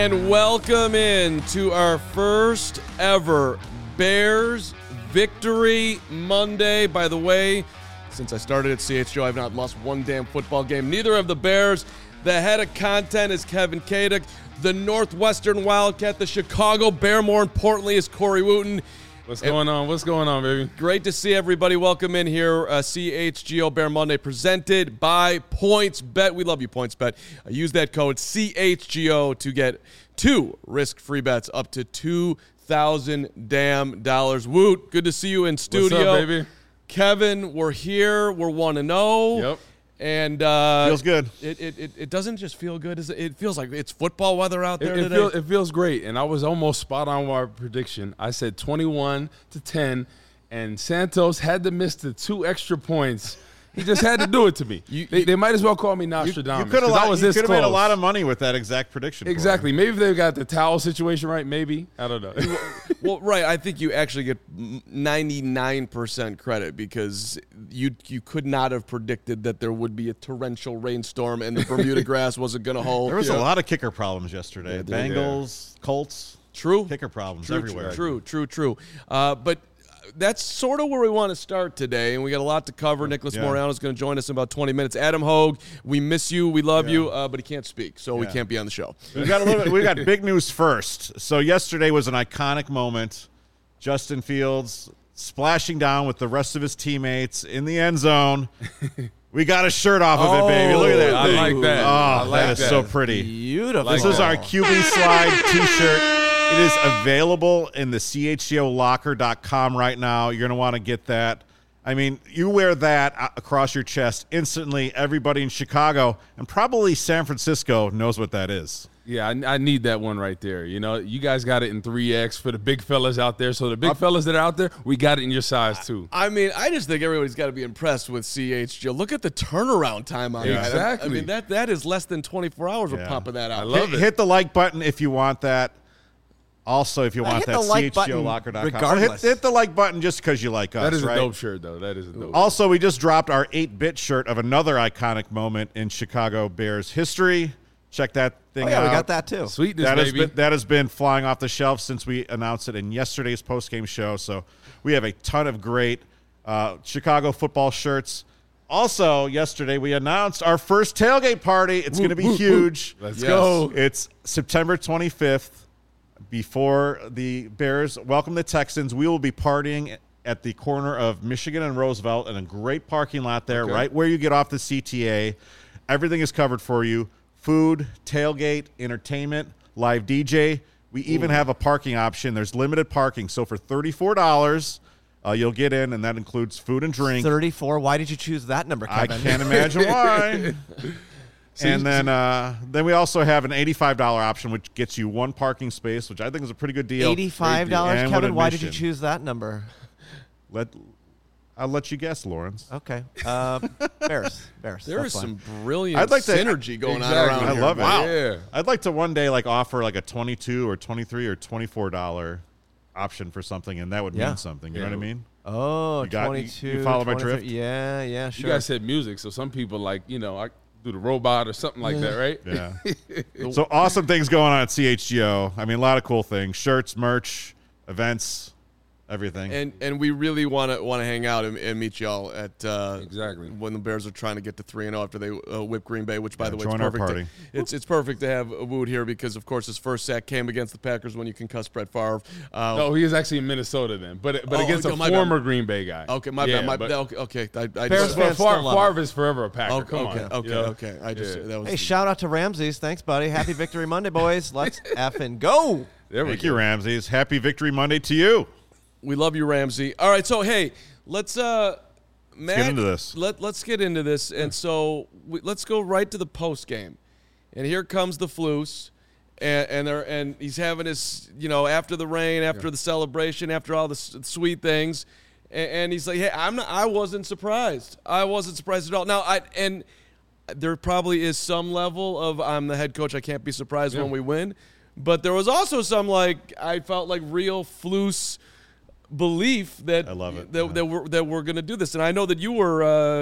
And welcome in to our first ever Bears Victory Monday. By the way, since I started at CHGO, I've not lost one damn football game. Neither have the Bears. The head of content is Kevin Kadick. The Northwestern Wildcat, the Chicago Bear, more importantly, is Corey Wooten. What's going on? What's going on, baby? Great to see everybody. Welcome in here. CHGO Bear Monday presented by PointsBet. We love you, PointsBet. Use that code CHGO to get 2 risk-free bets up to $2,000. Woot, good to see you in studio. What's up, baby? Kevin, we're here. We're 1-0. Yep. And feels good. It doesn't just feel good. It feels like it's football weather out there today. It feels great, and I was almost spot on with our prediction. I said 21-10, and Santos had to miss the 2 extra points. He just had to do it to me. They might as well call me Nostradamus. You could have made a lot of money. money with that exact prediction. Exactly. Maybe if they got the towel situation right, maybe. I don't know. Well, right. I think you actually get 99% credit because you could not have predicted that there would be a torrential rainstorm and the Bermuda grass wasn't going to hold. There was a lot of kicker problems yesterday. Yeah, Bengals, Colts. True. Kicker problems True, everywhere. True. But that's sort of where we want to start today, and we got a lot to cover. Nicholas Moreano is going to join us in about 20 minutes. Adam Hogue, we miss you, we love you, but he can't speak, so we can't be on the show. We got big news first. So yesterday was an iconic moment. Justin Fields splashing down with the rest of his teammates in the end zone. We got a shirt off of it, baby. Look at that I thing. like that. Oh, I like that is that. so pretty. Beautiful. This is our QB Slide t-shirt. It is available in the chgolocker.com right now. You're going to want to get that. I mean, you wear that across your chest, instantly everybody in Chicago and probably San Francisco knows what that is. Yeah, I need that one right there. You know, you guys got it in 3X for the big fellas out there. So the big fellas that are out there, we got it in your size too. I mean, I just think everybody's got to be impressed with CHGO. Look at the turnaround time on that. Exactly. I mean, that is less than 24 hours we're pumping that out. I love it. Hit the like button if you want that. Also, if you want hit that, the like button chgolocker.com. regardless. Hit the like button just because you like us, That is right? a dope shirt, though. That is a dope. Also, we just dropped our 8-bit shirt of another iconic moment in Chicago Bears history. Check that thing out. we got that too. Sweetness, baby. That has been flying off the shelf since we announced it in yesterday's postgame show. So we have a ton of great Chicago football shirts. Also, yesterday we announced our first tailgate party. It's going to be huge. Let's go. It's September 25th. Before the Bears welcome the Texans, we will be partying at the corner of Michigan and Roosevelt in a great parking lot there, right where you get off the CTA. Everything is covered for you. Food, tailgate, entertainment, live DJ. We even have a parking option. There's limited parking. So for $34, you'll get in, and that includes food and drink. 34. Why did you choose that number, I Kevin? can't imagine why. And then we also have an $85 option, which gets you 1 parking space, which I think is a pretty good deal. $85, And Kevin. Why did admission. you choose that number? I'll let you guess, Lawrence. Okay. Bears. There is some brilliant I'd like to- synergy going on Exactly. around I here. love it. Wow. Yeah. I'd like to one day offer a 22 or 23 or $24 option for something, and that would mean something. You know what I mean? Oh, You got- 22. you follow my 23. drift? Yeah, sure. You guys said music, so some people I do the robot or something like that, right? Yeah. So awesome things going on at CHGO. I mean, a lot of cool things: shirts, merch, events, everything. And we really want to hang out and meet y'all at Exactly. when the Bears are trying to get to 3-0 after they whip Green Bay, which by the way, join it's our perfect. party. It's perfect to have Wood here because of course his first sack came against the Packers when you concussed Brett Favre. No, he is actually in Minnesota then, but against a my bad. former Green Bay guy. Okay, my Yeah, bad. but- Okay. I Bears just, fans still love Favre is forever a Packer. Come on. okay. I just that was Hey, shout out to Ramses. Thanks, buddy. Happy Victory Monday, boys. Let's effing go. There we Thank go. you, Ramses. Happy Victory Monday to you. we love you, Ramsey. All right, so hey, let's Matt, get into this. Let's get into this, and so let's go right to the post game, and here comes the Flus. And he's having his, after the rain, after the celebration, after all the sweet things, and he's like, "Hey, I wasn't surprised. I wasn't surprised at all." Now, there probably is some level of I'm the head coach. I can't be surprised when we win, but there was also some I felt like real Flus belief that I love it. that we're going to do this, and I know that you were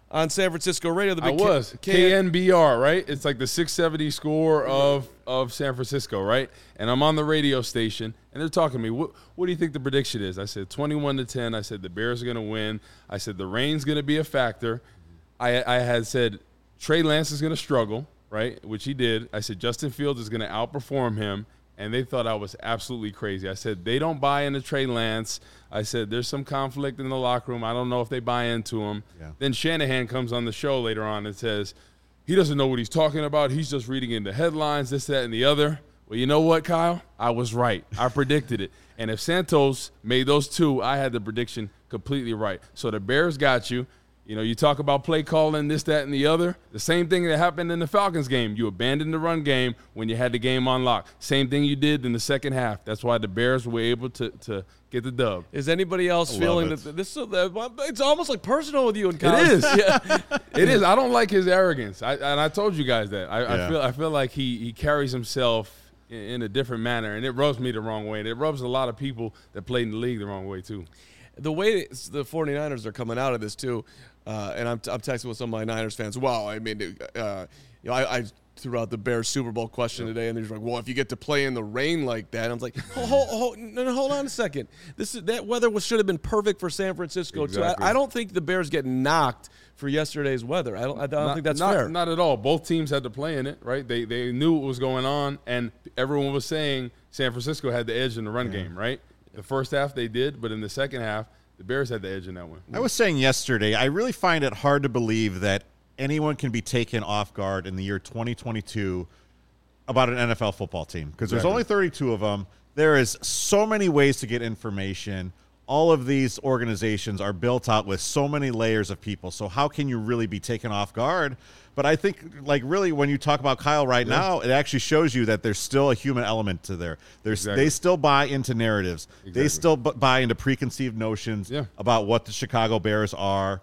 on San Francisco radio. I was. KNBR, right? It's like the 670 score of San Francisco, right? And I'm on the radio station, and they're talking to me. What do you think the prediction is? I said 21-10. I said the Bears are going to win. I said the rain's going to be a factor. I had said Trey Lance is going to struggle, right, which he did. I said Justin Fields is going to outperform him. And they thought I was absolutely crazy. I said, they don't buy into Trey Lance. I said, there's some conflict in the locker room. I don't know if they buy into him. Yeah. Then Shanahan comes on the show later on and says, he doesn't know what he's talking about. He's just reading in the headlines, this, that, and the other. Well, you know what, Kyle? I was right. I predicted it. And if Santos made those two, I had the prediction completely right. So the Bears got you. You know, you talk about play calling, this, that, and the other. The same thing that happened in the Falcons game. You abandoned the run game when you had the game on lock. Same thing you did in the second half. That's why the Bears were able to get the dub. Is anybody else feeling that this? It's almost like personal with you and Kyle. It is. Yeah. It is. I don't like his arrogance. And I told you guys that. I feel like he carries himself in a different manner, and it rubs me the wrong way. And it rubs a lot of people that played in the league the wrong way too. The way the 49ers are coming out of this too. And I'm texting with some of my Niners fans. Wow, I mean, I threw out the Bears Super Bowl question today, and they're like, "Well, if you get to play in the rain like that," I was like, "Hold on a second. That weather should have been perfect for San Francisco exactly. too." I don't think the Bears get knocked for yesterday's weather. I don't think that's fair. Not at all. Both teams had to play in it, right? They knew what was going on, and everyone was saying San Francisco had the edge in the run game, right? The first half they did, but in the second half, the Bears had the edge in that one. I was saying yesterday, I really find it hard to believe that anyone can be taken off guard in the year 2022 about an NFL football team because there's only 32 of them. There is so many ways to get information. All of these organizations are built out with so many layers of people. So how can you really be taken off guard? But I think, like, really, when you talk about Kyle right now, it actually shows you that there's still a human element to there. They still buy into narratives. They still buy into preconceived notions about what the Chicago Bears are.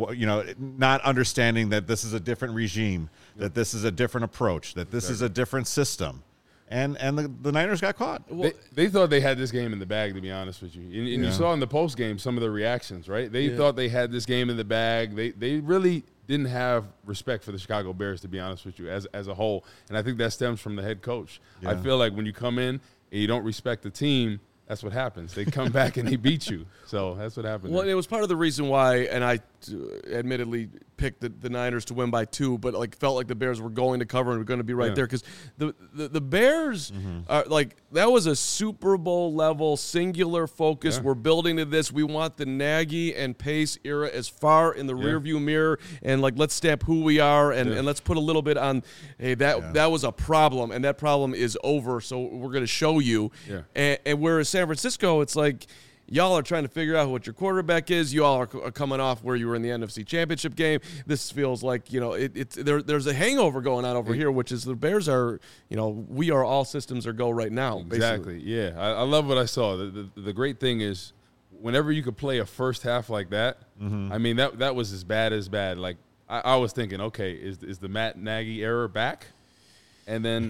And, not understanding that this is a different regime, that this is a different approach, that this is a different system. And the Niners got caught. They thought they had this game in the bag, to be honest with you. And you saw in the post game some of the reactions, right? They thought they had this game in the bag. They really didn't have respect for the Chicago Bears, to be honest with you, as a whole. And I think that stems from the head coach. Yeah. I feel like when you come in and you don't respect the team, that's what happens. They come back and they beat you. So that's what happened. Well, it was part of the reason why, and I admittedly picked the Niners to win by 2, but felt like the Bears were going to cover and were going to be right there because the Bears are that was a Super Bowl level singular focus. We're building to this. We want the Nagy and Pace era as far in the rearview mirror, and let's stamp who we are and let's put a little bit on. Hey, that was a problem, and that problem is over. So we're going to show you. Yeah. And whereas San Francisco, it's like, y'all are trying to figure out what your quarterback is. You all are coming off where you were in the NFC Championship game. This feels like, there's a hangover going on over here, which is the Bears are, we are all systems are go right now. Exactly. Basically. Yeah. I love what I saw. The great thing is whenever you could play a first half like that, I mean, that was as bad. Like I was thinking, okay, is the Matt Nagy era back? And then,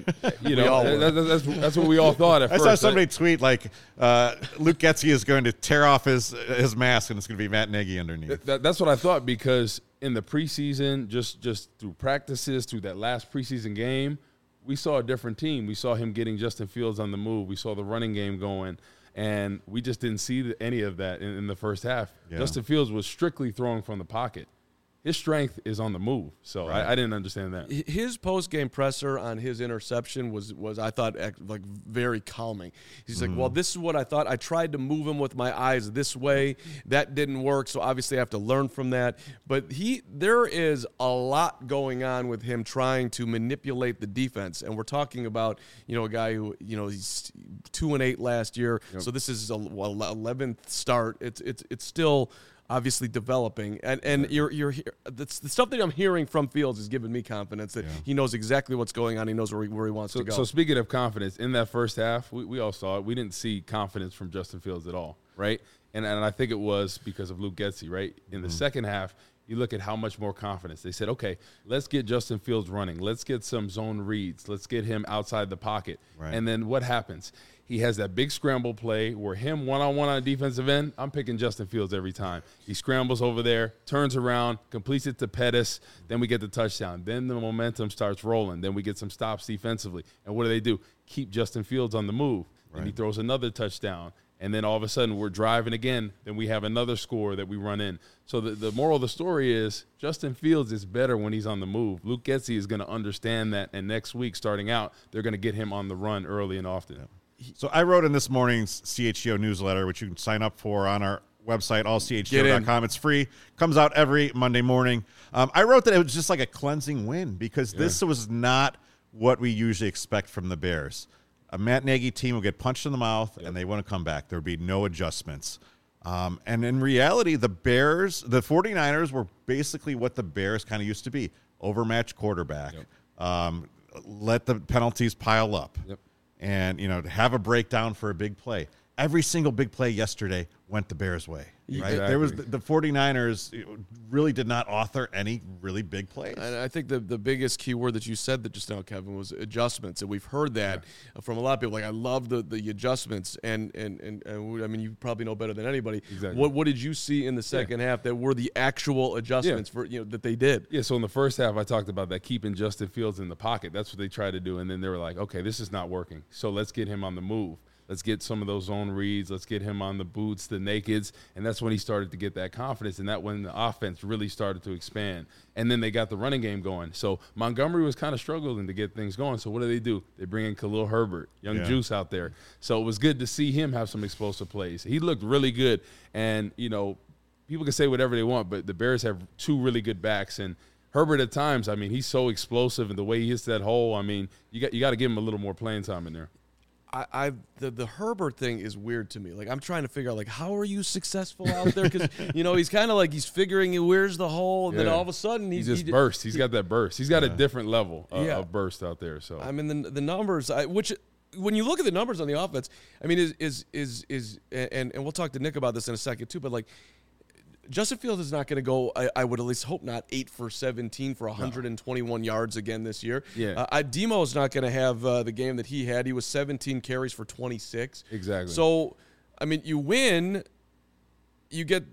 that's what we all thought at first. I saw somebody tweet Luke Getsy is going to tear off his mask and it's going to be Matt Nagy underneath. That's what I thought because in the preseason, just through practices, through that last preseason game, we saw a different team. We saw him getting Justin Fields on the move. We saw the running game going, and we just didn't see any of that in the first half. Yeah. Justin Fields was strictly throwing from the pocket. His strength is on the move, so I didn't understand that. His post-game presser on his interception was I thought very calming. He's like, well, this is what I thought. I tried to move him with my eyes this way. That didn't work, so obviously I have to learn from that. But there is a lot going on with him trying to manipulate the defense, and we're talking about a guy who he's 2-8 last year, so this is his 11th start. It's still obviously developing, and you're the stuff that I'm hearing from Fields is giving me confidence that he knows exactly what's going on. He knows where he wants to go. So speaking of confidence, in that first half, we all saw it. We didn't see confidence from Justin Fields at all, right? And I think it was because of Luke Getsy, right? In the second half, you look at how much more confidence. They said, okay, let's get Justin Fields running. Let's get some zone reads. Let's get him outside the pocket. Right. And then what happens? He has that big scramble play where him one-on-one on the defensive end, I'm picking Justin Fields every time. He scrambles over there, turns around, completes it to Pettis, then we get the touchdown. Then the momentum starts rolling. Then we get some stops defensively. And what do? Keep Justin Fields on the move. Right. And he throws another touchdown. And then all of a sudden we're driving again. Then we have another score that we run in. So the moral of the story is Justin Fields is better when he's on the move. Luke Getsy is going to understand that. And next week, starting out, they're going to get him on the run early and often. So I wrote in this morning's CHGO newsletter, which you can sign up for on our website, allchgo.com. It's free. Comes out every Monday morning. I wrote that it was just like a cleansing win because this was not what we usually expect from the Bears. A Matt Nagy team will get punched in the mouth, and they want to come back. There would be no adjustments. And in reality, the 49ers were basically what the Bears kind of used to be, overmatched quarterback. Let the penalties pile up. And, have a breakdown for a big play. Every single big play yesterday went the Bears' way. Right? Exactly. There was the 49ers really did not author any really big plays. And I think the biggest key word that you said that just now, Kevin, was adjustments. And we've heard that from a lot of people. Like, I love the adjustments. And I mean, you probably know better than anybody. Exactly. What did you see in the second half that were the actual adjustments for that they did? Yeah, so in the first half, I talked about that, keeping Justin Fields in the pocket. That's what they tried to do. And then they were like, okay, this is not working. So let's get him on the move. Let's get some of those zone reads. Let's get him on the boots, the nakeds. And that's when he started to get that confidence. And that when the offense really started to expand. And then they got the running game going. So Montgomery was kind of struggling to get things going. So what do? They bring in Khalil Herbert, young Juice out there. So it was good to see him have some explosive plays. He looked really good. And, people can say whatever they want, but the Bears have two really good backs. And Herbert at times, I mean, he's so explosive. And the way he hits that hole, I mean, you got to give him a little more playing time in there. The Herbert thing is weird to me. Like, I'm trying to figure out, like, how are you successful out there? Because, he's kind of like he's figuring where's the hole, and then all of a sudden he just bursts. He's got that burst. He's got a different level of burst out there. So I mean, the numbers, which when you look at the numbers on the offense, I mean, and we'll talk to Nick about this in a second too. But like, Justin Fields is not going to go, I would at least hope not, 8 for 17 for 121 yards again this year. Yeah. Demo's not going to have the game that he had. He was 17 carries for 26. Exactly. So, I mean, you win, you get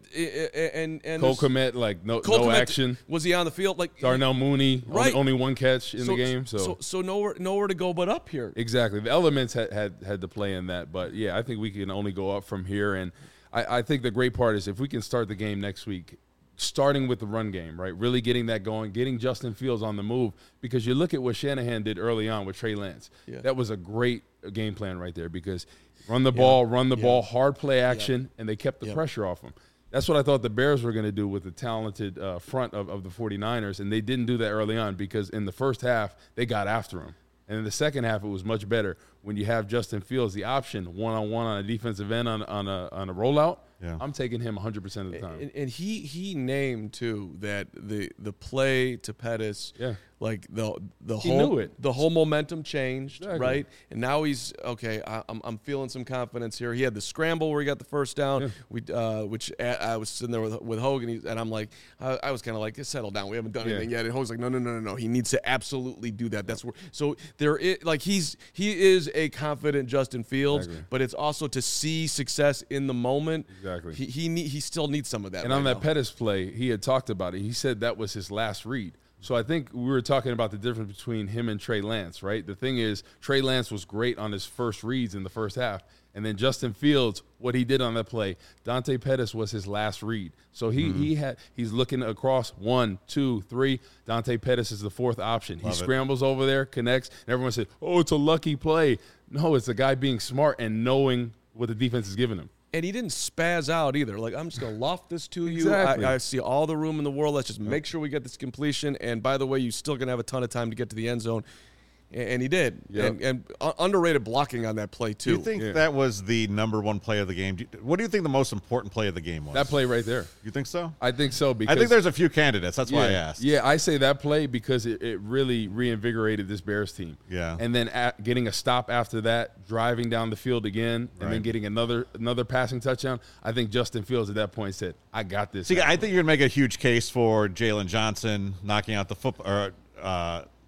and Cole Kmet, like no action. Was he on the field? Like Darnell Mooney, right. only one catch in the game. So nowhere to go but up here. Exactly. The elements had to play in that, but yeah, I think we can only go up from here. And I think the great part is if we can start the game next week, starting with the run game, right? Really getting that going, getting Justin Fields on the move, because you look at what Shanahan did early on with Trey Lance. Yeah. That was a great game plan right there because run the ball, hard play action, and they kept the pressure off him. That's what I thought the Bears were going to do with the talented front of the 49ers, and they didn't do that early on because in the first half, they got after him. And in the second half, it was much better when you have Justin Fields, the option, one-on-one on a defensive end on a rollout. Yeah. I'm taking him 100% of the time. And he named, too, that the play to Pettis, like the whole momentum changed, right? And now he's, okay, I'm feeling some confidence here. He had the scramble where he got the first down, which I was sitting there with Hogan, and I'm like, I was kind of like, settle down. We haven't done anything yet. And Hogan's like, no. He needs to absolutely do that. That's where. So there is, like, he is a confident Justin Fields, but it's also to see success in the moment. Exactly. He still needs some of that. And on that Pettis play, he had talked about it. He said that was his last read. So I think we were talking about the difference between him and Trey Lance, right? The thing is, Trey Lance was great on his first reads in the first half. And then Justin Fields, what he did on that play, Dante Pettis was his last read. So he's looking across 1, 2, 3. Dante Pettis is the fourth option. He scrambles over there, connects, and everyone said, oh, it's a lucky play. No, it's the guy being smart and knowing what the defense is giving him. And he didn't spaz out either. Like, I'm just going to loft this to you. Exactly. I see all the room in the world. Let's just make sure we get this completion. And by the way, you're still going to have a ton of time to get to the end zone. And he did. Yep. And underrated blocking on that play, too. Do you think that was the number one play of the game? What do you think the most important play of the game was? That play right there. You think so? I think so. Because I think there's a few candidates. That's why I asked. Yeah, I say that play because it really reinvigorated this Bears team. Yeah. And then getting a stop after that, driving down the field again, and then getting another passing touchdown. I think Justin Fields at that point said, I got this. See, I think you're going to make a huge case for Jalen Johnson knocking out the football.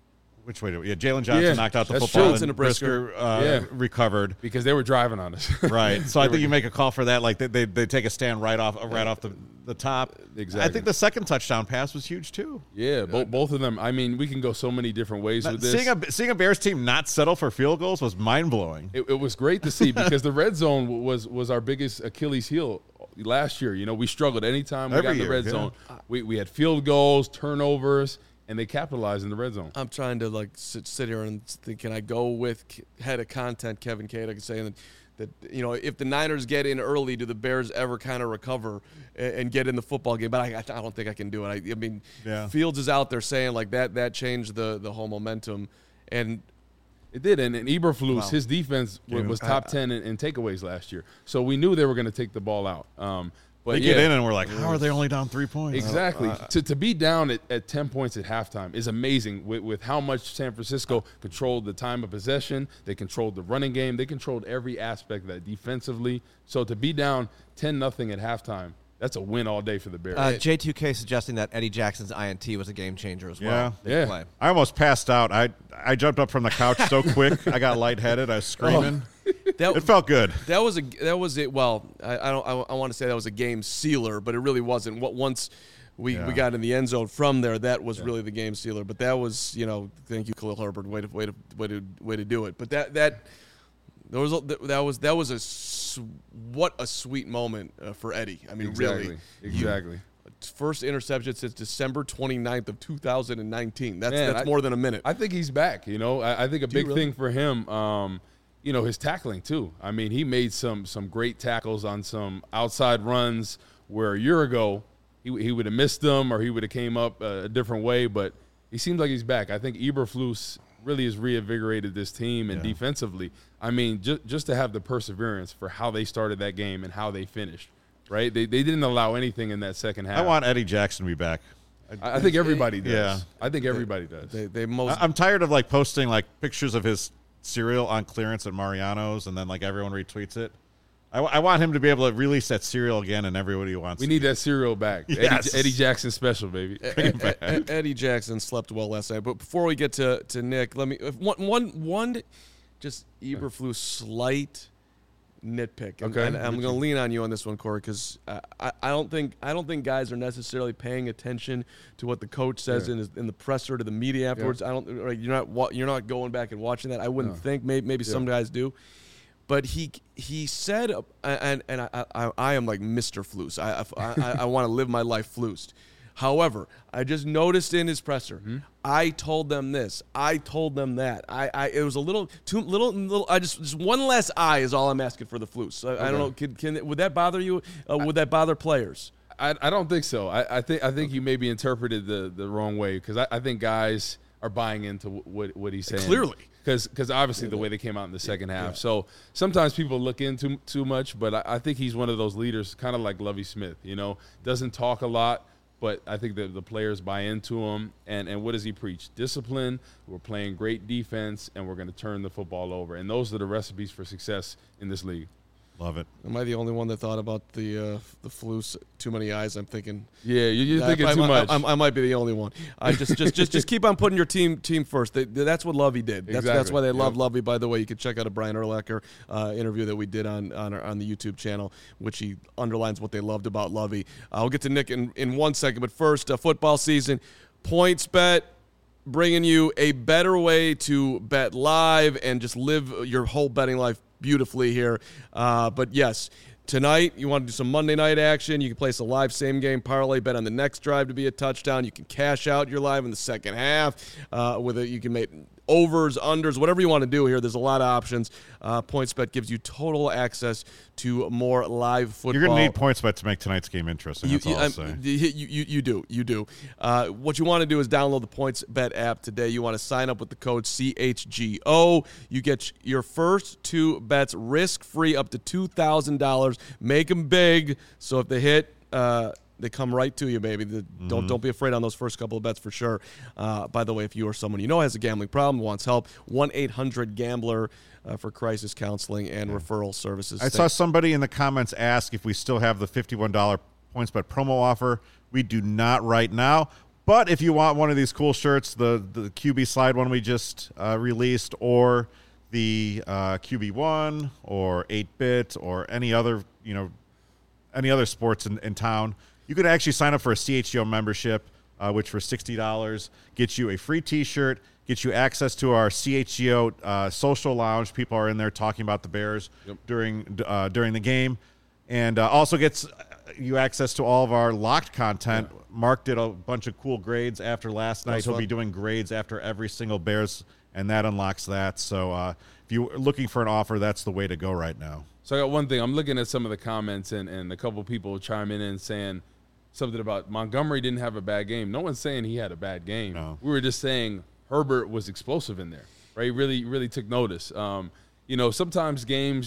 which way? Jalen Johnson knocked out the that's football, true. and Brisker recovered because they were driving on us. Right. So I think you make a call for that. Like they take a stand right off the top. Exactly. I think the second touchdown pass was huge too. Yeah, both of them. I mean, we can go so many different ways with this. Seeing a Bears team not settle for field goals was mind blowing. It was great to see because the red zone was our biggest Achilles heel last year. You know, we struggled anytime we got in the red zone. We had field goals, turnovers, and they capitalized in the red zone. I'm trying to like sit here and think, can I go with head of content Kevin Kaduk saying that you know, if the Niners get in early, do the Bears ever kind of recover and get in the football game? But I don't think I can do it. I mean, Fields is out there saying like that changed the whole momentum, and it did. And Eberflus, his defense was top 10 in takeaways last year, so we knew they were going to take the ball out. But they get in and we're like, how are they only down 3 points? Exactly. To be down at 10 points at halftime is amazing with how much San Francisco controlled the time of possession. They controlled the running game. They controlled every aspect of that defensively. So to be down 10-0 at halftime, that's a win all day for the Bears. J2K suggesting that Eddie Jackson's INT was a game changer as well. Yeah. Play. I almost passed out. I jumped up from the couch so quick. I got lightheaded. I was screaming. It felt good. That was it. Well, I want to say that was a game sealer, but it really wasn't. Once we got in the end zone from there, that was really the game sealer. But that was, you know, thank you, Khalil Herbert, way to do it. But that was what a sweet moment for Eddie. I mean, really, exactly. First interception since December 29th of 2019. That's more than a minute. I think he's back. You know, I think a big thing for him. You know, his tackling too. I mean, he made some great tackles on some outside runs where a year ago he would have missed them or he would have came up a different way. But he seems like he's back. I think Eberflus really has reinvigorated this team, and defensively, I mean, just to have the perseverance for how they started that game and how they finished. Right? They didn't allow anything in that second half. I want Eddie Jackson to be back. I think everybody does. Yeah. I think everybody does. I'm tired of like posting like pictures of his cereal on clearance at Mariano's, and then like everyone retweets it. I want him to be able to release that cereal again, and everybody wants. We need that cereal back. Yes. Eddie Jackson special, baby. Eddie Jackson slept well last night. But before we get to Nick, let me one just Eberflus slight nitpick. Okay. And I'm going to lean on you on this one, Corey, because I don't think guys are necessarily paying attention to what the coach says in the presser to the media afterwards. You're not going back and watching that. I wouldn't think. Maybe some guys do. But he said, and I am like Mr. Flus. I want to live my life flused. However, I just noticed in his presser, I told them this, I told them that. It was a little too little. I just one less I is all I'm asking for the Flus. I don't know. Would that bother you? Would that bother players? I don't think so. I think you maybe interpreted the wrong way, because I think guys are buying into what he's saying. Clearly. Because obviously the way they came out in the second half. Yeah. So sometimes people look into too much, but I think he's one of those leaders, kind of like Lovie Smith, you know, doesn't talk a lot, but I think that the players buy into him. And what does he preach? Discipline, we're playing great defense, and we're going to turn the football over. And those are the recipes for success in this league. Love it. Am I the only one that thought about the Flus? Too many eyes. I'm thinking. Yeah, you're thinking too much. I might be the only one. I just keep on putting your team first. That's what Lovie did. That's why they love Lovie. By the way, you can check out a Brian Urlacher interview that we did on the YouTube channel, which he underlines what they loved about Lovie. I'll get to Nick in 1 second, but first, football season, PointsBet, bringing you a better way to bet live and just live your whole betting life beautifully here. But yes, tonight you want to do some Monday night action. You can place a live same game parlay bet on the next drive to be a touchdown. You can cash out your live in the second half you can make overs, unders, whatever you want to do here. There's a lot of options. PointsBet gives you total access to more live football. You're going to need PointsBet to make tonight's game interesting. That's all I'll say. You do. What you want to do is download the PointsBet app today. You want to sign up with the code CHGO. You get your first 2 bets risk-free up to $2,000. Make them big, so if they hit, they come right to you, baby. Don't be afraid on those first couple of bets for sure. By the way, if you or someone you know has a gambling problem, wants help, 1-800-GAMBLER for crisis counseling and referral services. I saw somebody in the comments ask if we still have the $51 PointsBet promo offer. We do not right now. But if you want one of these cool shirts, the QB slide one we just released, or the QB1 or 8-bit or any other sports in town, you could actually sign up for a CHGO membership, which for $60 gets you a free T-shirt, gets you access to our CHGO social lounge. People are in there talking about the Bears during the game, and also gets you access to all of our locked content. Yeah. Mark did a bunch of cool grades after last night. He'll be doing grades after every single Bears, and that unlocks that. So if you're looking for an offer, that's the way to go right now. So I got one thing. I'm looking at some of the comments, and a couple people chiming in and saying something about Montgomery didn't have a bad game. No one's saying he had a bad game. No. We were just saying Herbert was explosive in there, right? He really took notice. Sometimes games,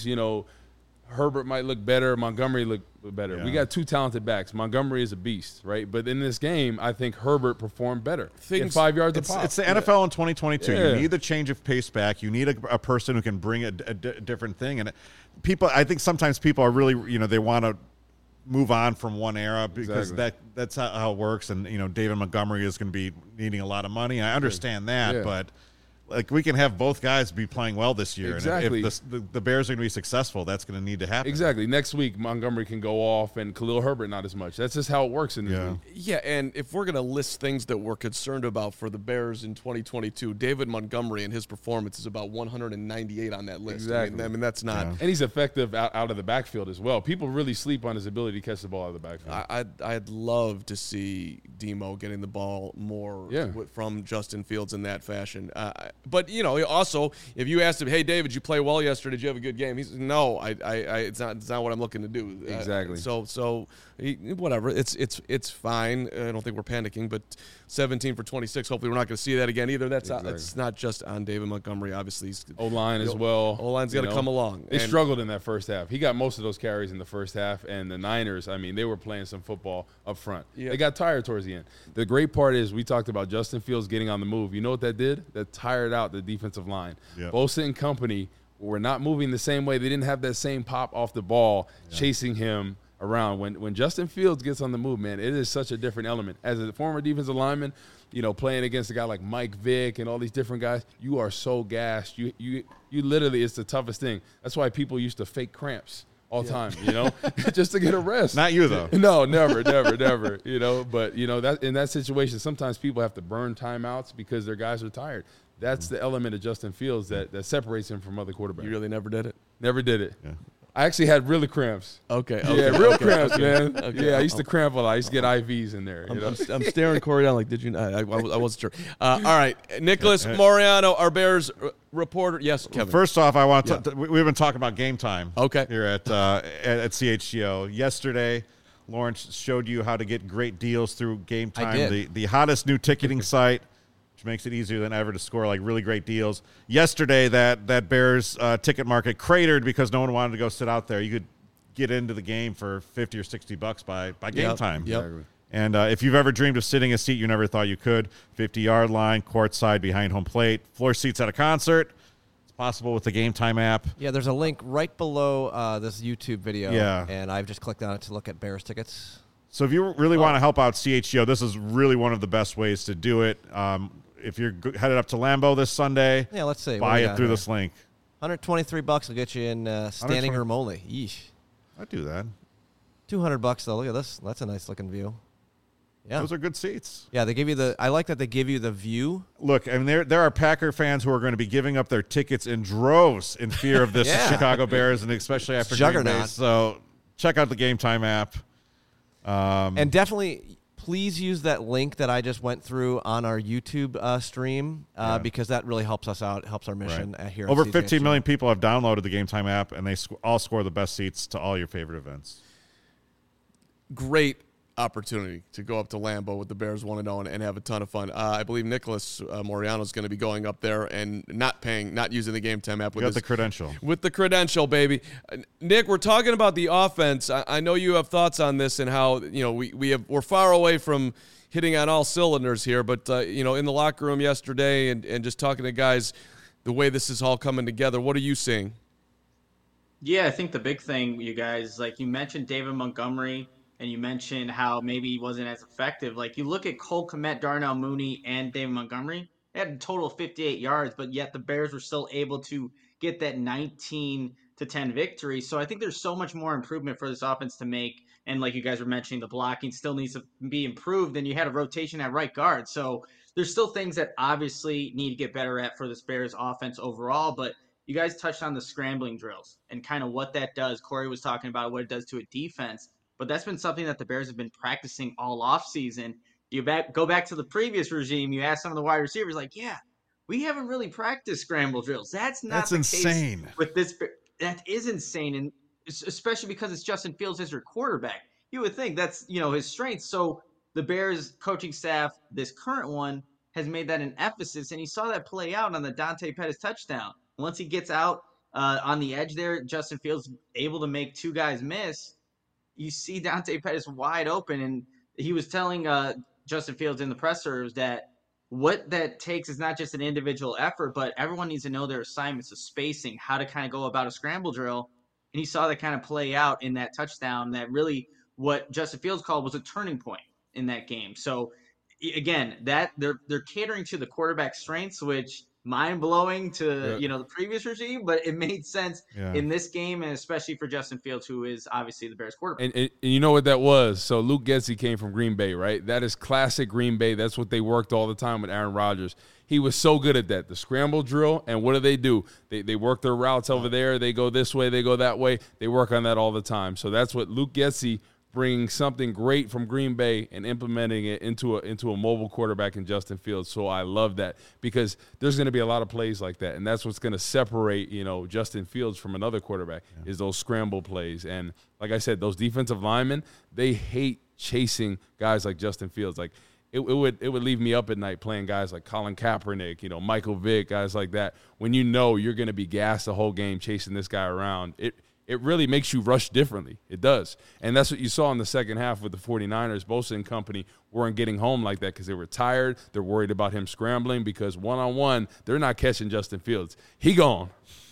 Herbert might look better, Montgomery look better. Yeah. We got two talented backs. Montgomery is a beast, right? But in this game, I think Herbert performed better. In 5 yards a pop. It's the NFL in 2022. Yeah. You need the change of pace back. You need a person who can bring a different thing. And I think sometimes people are really, they want to move on from one era because that's how it works. And, David Montgomery is going to be needing a lot of money. I understand that, but we can have both guys be playing well this year. Exactly. And if the Bears are going to be successful, that's going to need to happen. Exactly. Next week, Montgomery can go off and Khalil Herbert not as much. That's just how it works in this league. Yeah, and if we're going to list things that we're concerned about for the Bears in 2022, David Montgomery and his performance is about 198 on that list. Exactly. I mean that's not. Yeah. And he's effective out of the backfield as well. People really sleep on his ability to catch the ball out of the backfield. I'd love to see Demo getting the ball more from Justin Fields in that fashion. But also, if you asked him, "Hey, David, you play well yesterday? Did you have a good game?" He said, "No, it's not what I'm looking to do." Exactly. Whatever. It's fine. I don't think we're panicking, but 17 for 26. Hopefully, we're not going to see that again either. It's not just on David Montgomery. Obviously, O-line as well. O-line's got to come along. They struggled in that first half. He got most of those carries in the first half, and the Niners, they were playing some football up front. Yeah. They got tired towards the end. The great part is we talked about Justin Fields getting on the move. You know what that did? That tired out the defensive line. Yep. Bosa and company were not moving the same way. They didn't have that same pop off the ball chasing him around. When Justin Fields gets on the move, man, it is such a different element. As a former defensive lineman, playing against a guy like Mike Vick and all these different guys, you are so gassed. You literally, it's the toughest thing. That's why people used to fake cramps all the time, just to get a rest. Not you, though. No, never. But, that in that situation, sometimes people have to burn timeouts because their guys are tired. That's the element of Justin Fields that separates him from other quarterbacks. You really never did it? Never did it. Yeah. I actually had really cramps. Okay. Yeah, real cramps, man. Okay. Yeah, I used to cramp a lot. I used to get IVs in there. I'm staring Corey down like, did you not? I wasn't sure. All right. Nicholas Moriano, our Bears reporter. Yes, Kevin. First off, I want to we've been talking about game time here at CHGO. Yesterday, Lawrence showed you how to get great deals through Game Time, the hottest new ticketing site, which makes it easier than ever to score really great deals. Yesterday, that Bears ticket market cratered because no one wanted to go sit out there. You could get into the game for $50 or $60 by Game Time. Yep. And if you've ever dreamed of sitting a seat you never thought you could, 50-yard line, courtside, behind home plate, floor seats at a concert, it's possible with the Game Time app. Yeah, there's a link right below this YouTube video. Yeah. And I've just clicked on it to look at Bears tickets. So if you really want to help out CHGO, this is really one of the best ways to do it. If you're headed up to Lambeau this Sunday, let's see. Buy it through this link. $123 will get you in standing room only. Yeesh. I'd do that. $200 though. Look at this. That's a nice looking view. Yeah, those are good seats. Yeah, they give you I like that they give you the view. Look, there are Packer fans who are going to be giving up their tickets in droves in fear of this Chicago Bears, and especially after Green Bay. So check out the Game Time app. And definitely, please use that link that I just went through on our YouTube stream because that really helps us out, helps our mission here. Over 15 million people have downloaded the Game Time app, and they all score the best seats to all your favorite events. Great opportunity to go up to Lambeau with the Bears 1-0 and have a ton of fun. I believe Nicholas Moriano is going to be going up there and not using the Game Time app. With the credential. With the credential, baby. Nick, we're talking about the offense. I know you have thoughts on this and how we're far away from hitting on all cylinders here, but in the locker room yesterday and just talking to guys, the way this is all coming together, what are you seeing? Yeah, I think the big thing, you guys, like you mentioned, David Montgomery. and you mentioned how maybe he wasn't as effective. Like, you look at Cole Kmet, Darnell Mooney, and David Montgomery. They had a total of 58 yards, but yet the Bears were still able to get that 19-10 victory. So I think there's so much more improvement for this offense to make. And like you guys were mentioning, the blocking still needs to be improved. And you had a rotation at right guard. So there's still things that obviously need to get better at for this Bears offense overall. But you guys touched on the scrambling drills and kind of what that does. Corey was talking about what it does to a defense. But that's been something that the Bears have been practicing all offseason. You go back to the previous regime, you ask some of the wide receivers, like, yeah, we haven't really practiced scramble drills. That's not the insane. Case with this. That is insane, and especially because it's Justin Fields as your quarterback. You would think that's, his strength. So the Bears coaching staff, this current one, has made that an emphasis, and he saw that play out on the Dante Pettis touchdown. Once he gets out on the edge there, Justin Fields able to make two guys miss. You see Dante Pettis wide open, and he was telling Justin Fields in the pressers that what that takes is not just an individual effort, but everyone needs to know their assignments of spacing, how to kind of go about a scramble drill. And he saw that kind of play out in that touchdown, that really what Justin Fields called was a turning point in that game. So again, that they're catering to the quarterback strengths, which mind-blowing to the previous regime, but it made sense in this game, and especially for Justin Fields, who is obviously the Bears quarterback. And you know what that was? So Luke Getsy came from Green Bay, right? That is classic Green Bay. That's what they worked all the time with Aaron Rodgers. He was so good at that, the scramble drill. And what do? They work their routes over there. They go this way. They go that way. They work on that all the time. So that's what Luke Getsy, bringing something great from Green Bay and implementing it into a mobile quarterback in Justin Fields. So I love that, because there's going to be a lot of plays like that, and that's what's going to separate Justin Fields from another quarterback is those scramble plays. And like I said, those defensive linemen, they hate chasing guys like Justin Fields. Like it would leave me up at night playing guys like Colin Kaepernick, Michael Vick, guys like that. When you're going to be gassed the whole game chasing this guy around, it really makes you rush differently. It does. And that's what you saw in the second half with the 49ers. Bosa and company weren't getting home like that because they were tired. They're worried about him scrambling because one-on-one, they're not catching Justin Fields. He gone.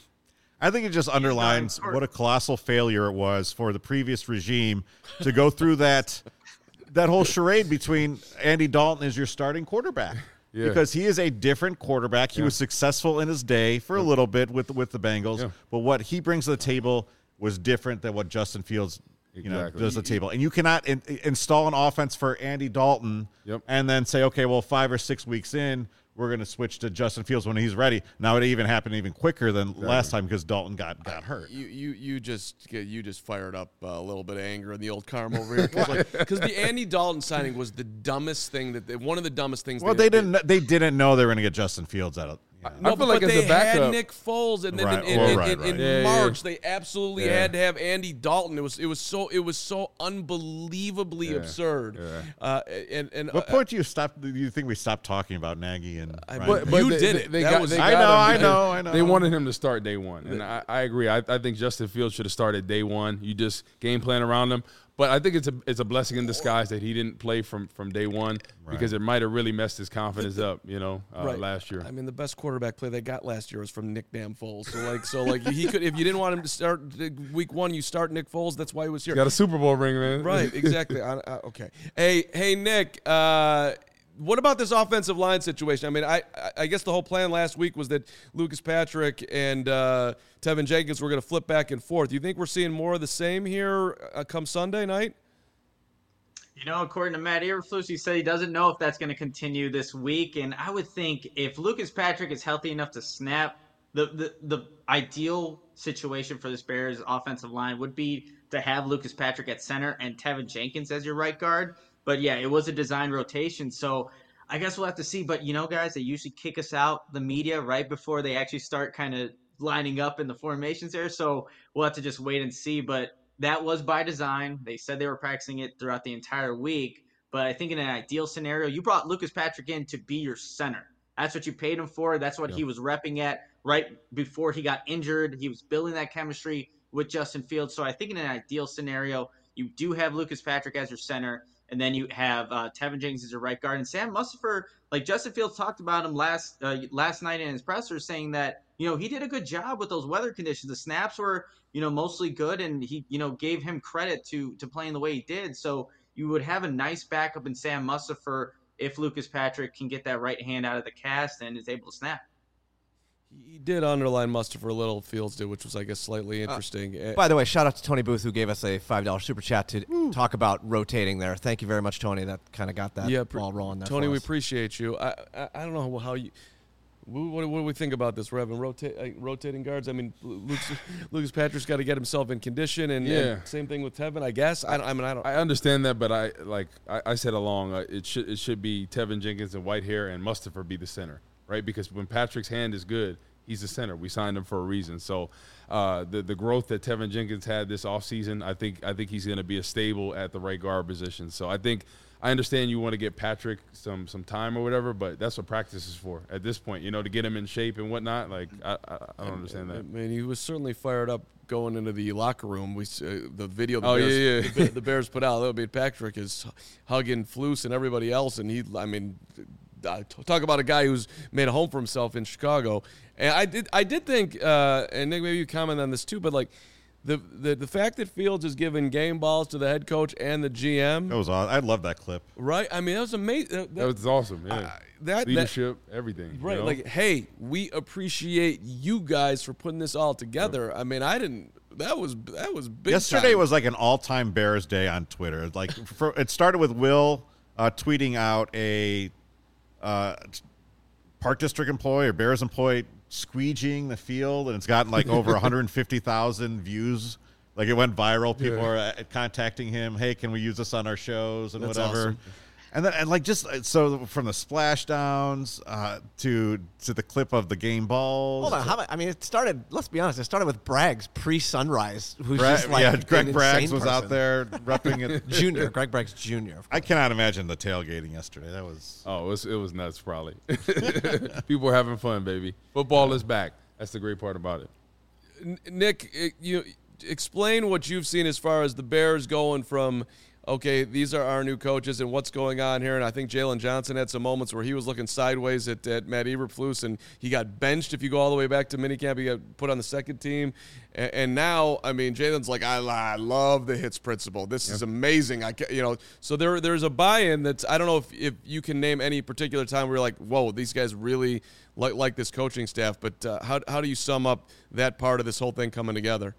I think it just underlines what a colossal failure it was for the previous regime to go through that whole charade between Andy Dalton as your starting quarterback. Yeah. Because he is a different quarterback. He was successful in his day for a little bit with the Bengals, but what he brings to the table was different than what Justin Fields does the table. And you cannot install an offense for Andy Dalton and then say, okay, well, 5 or 6 weeks in, we're going to switch to Justin Fields when he's ready. Now, it even happened even quicker than last time because Dalton got hurt. You just fired up a little bit of anger in the old Carm over here because the Andy Dalton signing was the dumbest thing one of the dumbest things. Well, they didn't know they were going to get Justin Fields out of. I feel like as a backup, had Nick Foles, and then in March they absolutely had to have Andy Dalton. It was so unbelievably absurd. Yeah. And what point do you think we stopped talking about Nagy and? But you did it. I know. They wanted him to start day one, and I agree. I think Justin Fields should have started day one. You just game plan around him. But I think it's a blessing in disguise that he didn't play from day one because it might have really messed his confidence up, last year. I mean, the best quarterback play they got last year was from Nick Damn Foles. So he could, if you didn't want him to start week one, you start Nick Foles. That's why he was here. He got a Super Bowl ring, man. Right, exactly. Okay. Hey, Nick. What about this offensive line situation? I mean, I guess the whole plan last week was that Lucas Patrick and Tevin Jenkins were going to flip back and forth. You think we're seeing more of the same here come Sunday night? According to Matt Eberflus, he said he doesn't know if that's going to continue this week. And I would think if Lucas Patrick is healthy enough to snap, the ideal situation for this Bears offensive line would be to have Lucas Patrick at center and Tevin Jenkins as your right guard. But, yeah, it was a design rotation, so I guess we'll have to see. But, guys, they usually kick us out, the media, right before they actually start kind of lining up in the formations there. So we'll have to just wait and see. But that was by design. They said they were practicing it throughout the entire week. But I think in an ideal scenario, you brought Lucas Patrick in to be your center. That's what you paid him for. That's what he was repping at right before he got injured. He was building that chemistry with Justin Fields. So I think in an ideal scenario, you do have Lucas Patrick as your center. And then you have Tevin Jenkins as your right guard, and Sam Mustipher. Like Justin Fields talked about him last night in his presser, saying that he did a good job with those weather conditions. The snaps were mostly good, and he gave him credit to playing the way he did. So you would have a nice backup in Sam Mustipher if Lucas Patrick can get that right hand out of the cast and is able to snap. He did underline Mustipher a little, Fields did, which was, I guess, slightly interesting. By the way, shout out to Tony Booth, who gave us a $5 super chat to talk about rotating there. Thank you very much, Tony. That kind of got that ball rolling there. Tony, we appreciate you. I don't know how you. What do we think about this? We're having rotating guards. I mean, Lucas Patrick's got to get himself in condition, and same thing with Tevin, I guess. I don't. I understand that, but I said along, it should be Tevin Jenkins and Whitehair and Mustipher be the center. Right, because when Patrick's hand is good, he's the center. We signed him for a reason. So the growth that Tevin Jenkins had this offseason, I think he's going to be a stable at the right guard position. So I understand you want to get Patrick some time or whatever, but that's what practice is for at this point. To get him in shape and whatnot. Like I don't understand that. I mean, he was certainly fired up going into the locker room. We the video the Bears put out. Patrick is hugging Flus and everybody else, and talk about a guy who's made a home for himself in Chicago. And I did think, and Nick, maybe you comment on this too, but like the fact that Fields is giving game balls to the head coach and the GM. That was awesome. I love that clip. Right? I mean, that was amazing. That was awesome. Yeah. Leadership, everything. Right. Like, hey, we appreciate you guys for putting this all together. Yep. I mean, that was big. Yesterday time. was like an all-time Bears day on Twitter. Like it started with Will tweeting out a Park District employee or Bears employee squeegeeing the field, and it's gotten like over 150,000 views. Like it went viral. People are contacting him. Hey, can we use this on our shows and That's whatever? Awesome. And then and like just so from the splashdowns to the clip of the game balls. Hold on, it started. Let's be honest. It started with Braggs pre-Sunrise, who's just like Greg Braggs was out there repping it. Junior, Greg Braggs Jr. I cannot imagine the tailgating yesterday. That was it was nuts. Probably people were having fun, baby. Football is back. That's the great part about it. Nick, you explain what you've seen as far as the Bears going from. Okay, these are our new coaches and what's going on here. And I think Jalen Johnson had some moments where he was looking sideways at Matt Eberflus, and he got benched. If you go all the way back to minicamp, he got put on the second team. And now, I mean, Jalen's like, I love the hits principle. This is amazing. So there's a buy-in that's, I don't know if you can name any particular time where you're like, whoa, these guys really like this coaching staff. But how do you sum up that part of this whole thing coming together?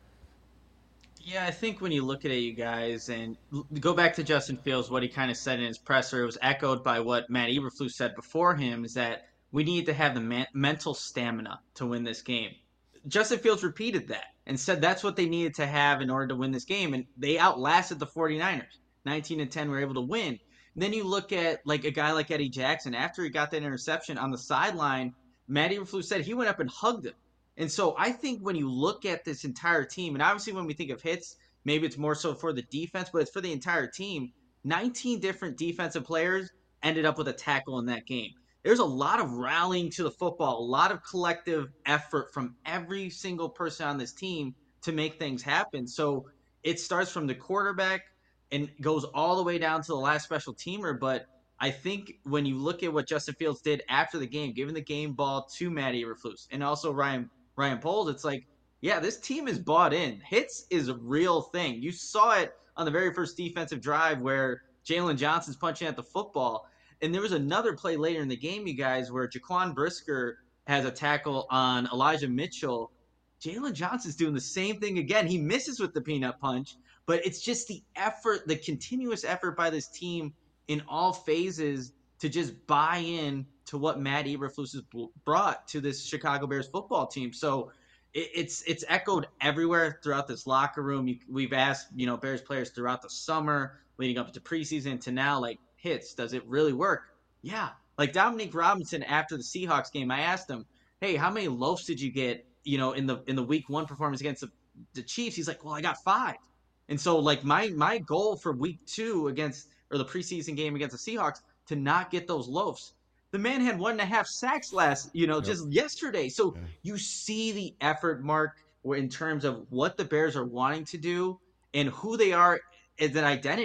Yeah, I think when you look at it, you guys, and go back to Justin Fields, what he kind of said in his presser, it was echoed by what Matt Eberflus said before him, is that we need to have the mental stamina to win this game. Justin Fields repeated that and said that's what they needed to have in order to win this game, and they outlasted the 49ers. 19-10 were able to win. And then you look at like a guy like Eddie Jackson. After he got that interception on the sideline, Matt Eberflus said he went up and hugged him. And so I think when you look at this entire team, and obviously when we think of hits, maybe it's more so for the defense, but it's for the entire team. 19 different defensive players ended up with a tackle in that game. There's a lot of rallying to the football, a lot of collective effort from every single person on this team to make things happen. So it starts from the quarterback and goes all the way down to the last special teamer. But I think when you look at what Justin Fields did after the game, giving the game ball to Matt Eberflus and also Ryan Poles, it's like, yeah, this team is bought in. Hits is a real thing. You saw it on the very first defensive drive where Jalen Johnson's punching at the football. And there was another play later in the game, you guys, where Jaquan Brisker has a tackle on Elijah Mitchell. Jalen Johnson's doing the same thing again. He misses with the peanut punch, but it's just the effort, the continuous effort by this team in all phases to just buy in to what Matt Eberflus has brought to this Chicago Bears football team. So it's echoed everywhere throughout this locker room. We've asked, Bears players throughout the summer, leading up to preseason to now, like, hits, does it really work? Yeah. Like Dominique Robinson after the Seahawks game, I asked him, hey, how many loafs did you get, in the week one performance against the Chiefs? He's like, well, I got 5. And so like my goal for week 2 the preseason game against the Seahawks to not get those loafs. The man had 1.5 sacks just yesterday. So you see the effort, Mark, in terms of what the Bears are wanting to do and who they are as an identity.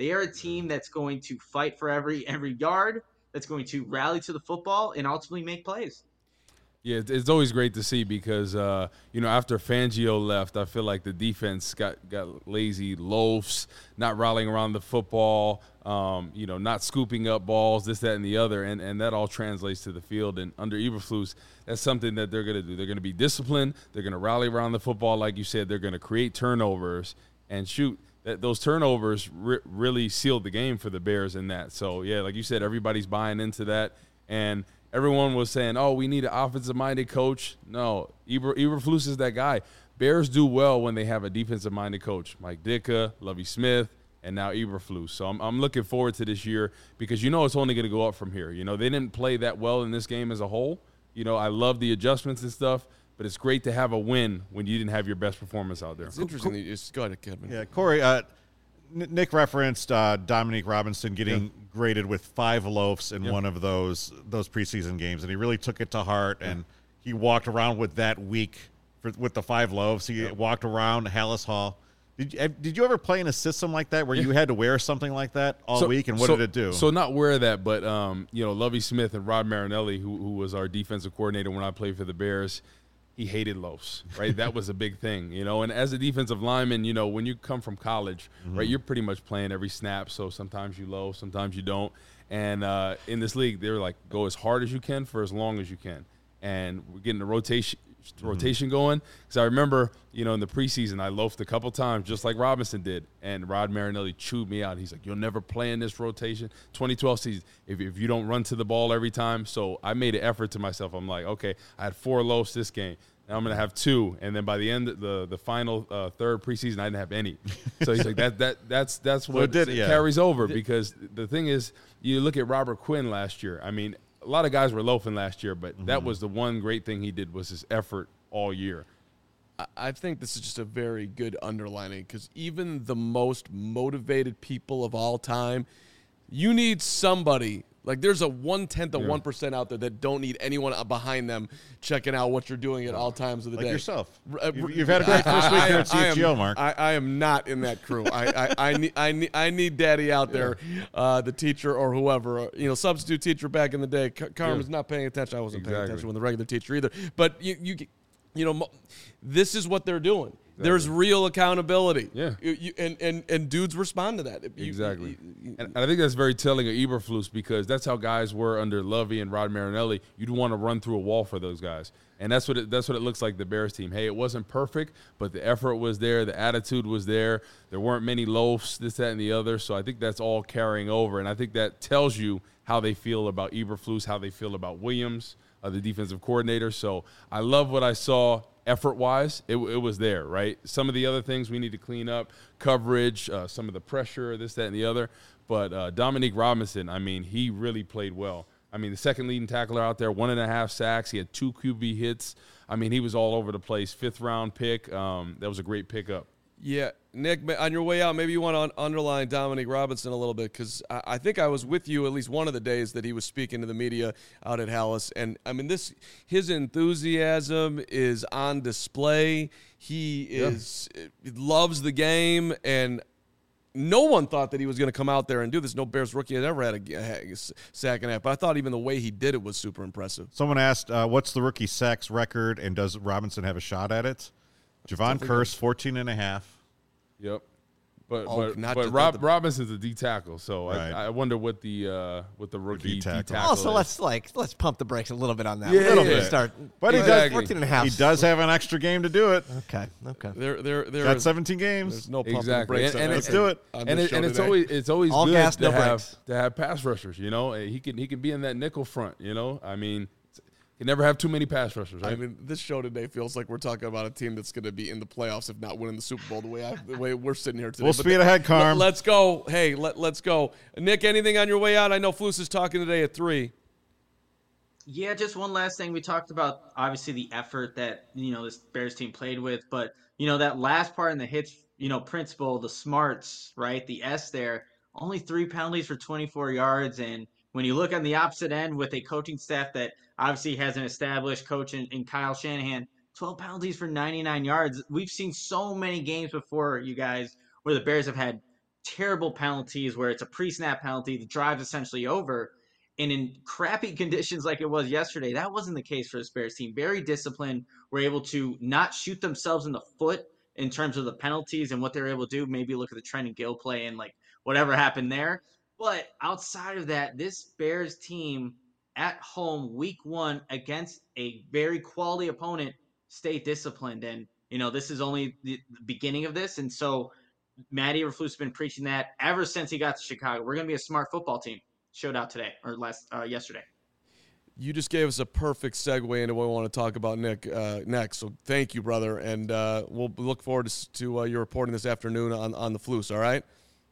They are a team that's going to fight for every yard, that's going to rally to the football and ultimately make plays. Yeah, it's always great to see because, after Fangio left, I feel like the defense got lazy, loafs, not rallying around the football, not scooping up balls, this, that, and the other, and that all translates to the field. And under Eberflus, that's something that they're going to do. They're going to be disciplined. They're going to rally around the football, like you said. They're going to create turnovers and shoot. Those turnovers really sealed the game for the Bears in that. So, yeah, like you said, everybody's buying into that. And everyone was saying, oh, we need an offensive-minded coach. No, Eberflus is that guy. Bears do well when they have a defensive-minded coach. Mike Ditka, Lovie Smith, and now Eberflus. So I'm looking forward to this year because it's only going to go up from here. They didn't play that well in this game as a whole. I love the adjustments and stuff, but it's great to have a win when you didn't have your best performance out there. It's interesting. Go ahead, Kevin. Yeah, Corey, Nick referenced Dominique Robinson getting graded with 5 loafs in one of those preseason games, and he really took it to heart, and he walked around with that week with the 5 loaves. He walked around Hallis Hall. Did you ever play in a system like that where you had to wear something like that all week, and what did it do? So not wear that, but Lovie Smith and Rod Marinelli, who was our defensive coordinator when I played for the Bears, he hated loafs, right? That was a big thing, And as a defensive lineman, when you come from college, right, you're pretty much playing every snap. So sometimes you loaf, sometimes you don't. And in this league, they were like, go as hard as you can for as long as you can. And we're getting the rotation going. Because I remember, in the preseason, I loafed a couple times, just like Robinson did. And Rod Marinelli chewed me out. He's like, you'll never play in this rotation. 2012 season, if you don't run to the ball every time. So I made an effort to myself. I'm like, okay, I had 4 loafs this game. Now I'm going to have 2. And then by the end, the final third preseason, I didn't have any. So he's like, that's what carries over. Because the thing is, you look at Robert Quinn last year. I mean, a lot of guys were loafing last year, but that was the one great thing he did was his effort all year. I think this is just a very good underlining because even the most motivated people of all time, you need somebody. Like there's a 1/10 of 1% out there that don't need anyone behind them checking out what you're doing at all times of the day. Like yourself. You've had a great first week here at CHGO, Mark. I am not in that crew. I need Daddy out there, the teacher or whoever. Substitute teacher back in the day. Carmen's not paying attention. I wasn't paying attention when the regular teacher either. But this is what they're doing. Exactly. There's real accountability. Yeah. And dudes respond to that. Exactly. And I think that's very telling of Eberflus because that's how guys were under Lovie and Rod Marinelli. You'd want to run through a wall for those guys. And that's what it looks like the Bears team. Hey, it wasn't perfect, but the effort was there. The attitude was there. There weren't many loafs, this, that, and the other. So I think that's all carrying over. And I think that tells you how they feel about Eberflus, how they feel about Williams, the defensive coordinator. So I love what I saw. Effort-wise, it was there, right? Some of the other things we need to clean up, coverage, some of the pressure, this, that, and the other. But Dominique Robinson, I mean, he really played well. I mean, the second leading tackler out there, 1.5 sacks. He had 2 QB hits. I mean, he was all over the place. 5th-round pick. That was a great pickup. Yeah, Nick, on your way out, maybe you want to underline Dominique Robinson a little bit because I think I was with you at least one of the days that he was speaking to the media out at Hallis. And, I mean, his enthusiasm is on display. He loves the game, and no one thought that he was going to come out there and do this. No Bears rookie had ever had a sack and a half. But I thought even the way he did it was super impressive. Someone asked, what's the rookie sacks record, and does Robinson have a shot at it? Javon Kearse, 14.5. Yep. But Robinson's a D tackle, so right. I wonder what the rookie D tackle also, is. let's pump the brakes a little bit on that. Yeah, a little bit. Start. But exactly. 14.5. He does have an extra game to do it. Okay. There got 17 games. There's no pumping exactly. brakes. And let's do it. And it's always all good gas, to no have brakes. to have pass rushers. He can be in that nickel front. I mean. You never have too many pass rushers, right? I mean, this show today feels like we're talking about a team that's going to be in the playoffs, if not winning the Super Bowl, the way we're sitting here today. We'll speed ahead, Carm. Let's go. Hey, let's go. Nick, anything on your way out? I know Flus is talking today at 3. Yeah, just one last thing. We talked about, obviously, the effort that, this Bears team played with. But, that last part in the hits, principle, the smarts, right, the S there, only 3 penalties for 24 yards. And when you look on the opposite end with a coaching staff that obviously has an established coach in Kyle Shanahan, 12 penalties for 99 yards. We've seen so many games before, you guys, where the Bears have had terrible penalties where it's a pre-snap penalty, the drive's essentially over. And in crappy conditions like it was yesterday, that wasn't the case for the Bears team. Very disciplined, were able to not shoot themselves in the foot in terms of the penalties and what they were able to do. Maybe look at the Trenton Gill play and like whatever happened there. But outside of that, this Bears team at home, week 1 against a very quality opponent, stay disciplined. And, this is only the beginning of this. And so Matty Eberflus has been preaching that ever since he got to Chicago. We're going to be a smart football team. Showed out today or yesterday. You just gave us a perfect segue into what we want to talk about, Nick, next. So thank you, brother. And we'll look forward to your reporting this afternoon on the Flus, all right?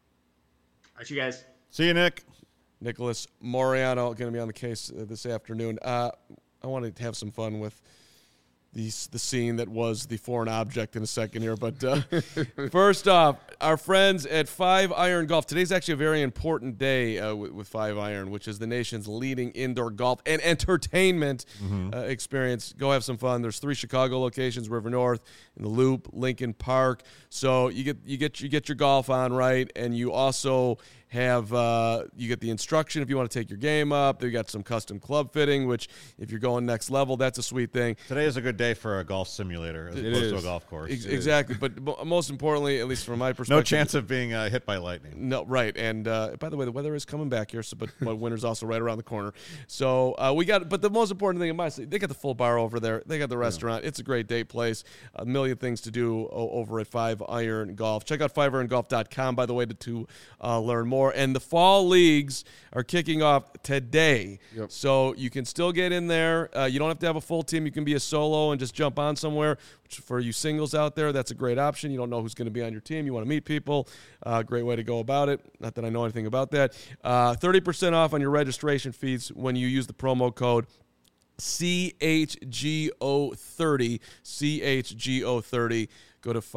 All right, you guys. See you, Nick. Nicholas Moriano going to be on the case this afternoon. I want to have some fun with the scene that was the foreign object in a second here. But first off, our friends at 5 Iron Golf. Today's actually a very important day with 5 Iron, which is the nation's leading indoor golf and entertainment experience. Go have some fun. There's 3 Chicago locations: River North, in the Loop, Lincoln Park. So you get your golf on right, and you also have you get the instruction if you want to take your game up. They got some custom club fitting, which if you're going next level, that's a sweet thing. Today is a good day for a golf simulator as opposed to a golf course. Exactly, but most importantly, at least from my perspective, no chance of being hit by lightning. No, right. And by the way, the weather is coming back here, so but winter's also right around the corner. So but the most important thing in my city, they got the full bar over there. They got the restaurant. It's a great date place. A million things to do over at 5 Iron Golf. Check out 5irongolf.com, by the way, to learn more. And the fall leagues are kicking off today. Yep. So you can still get in there. You don't have to have a full team. You can be a solo and just jump on somewhere. Which for you singles out there, that's a great option. You don't know who's going to be on your team. You want to meet people. Great way to go about it. Not that I know anything about that. 30% off on your registration fees when you use the promo code CHGO30. CHGO30. Go to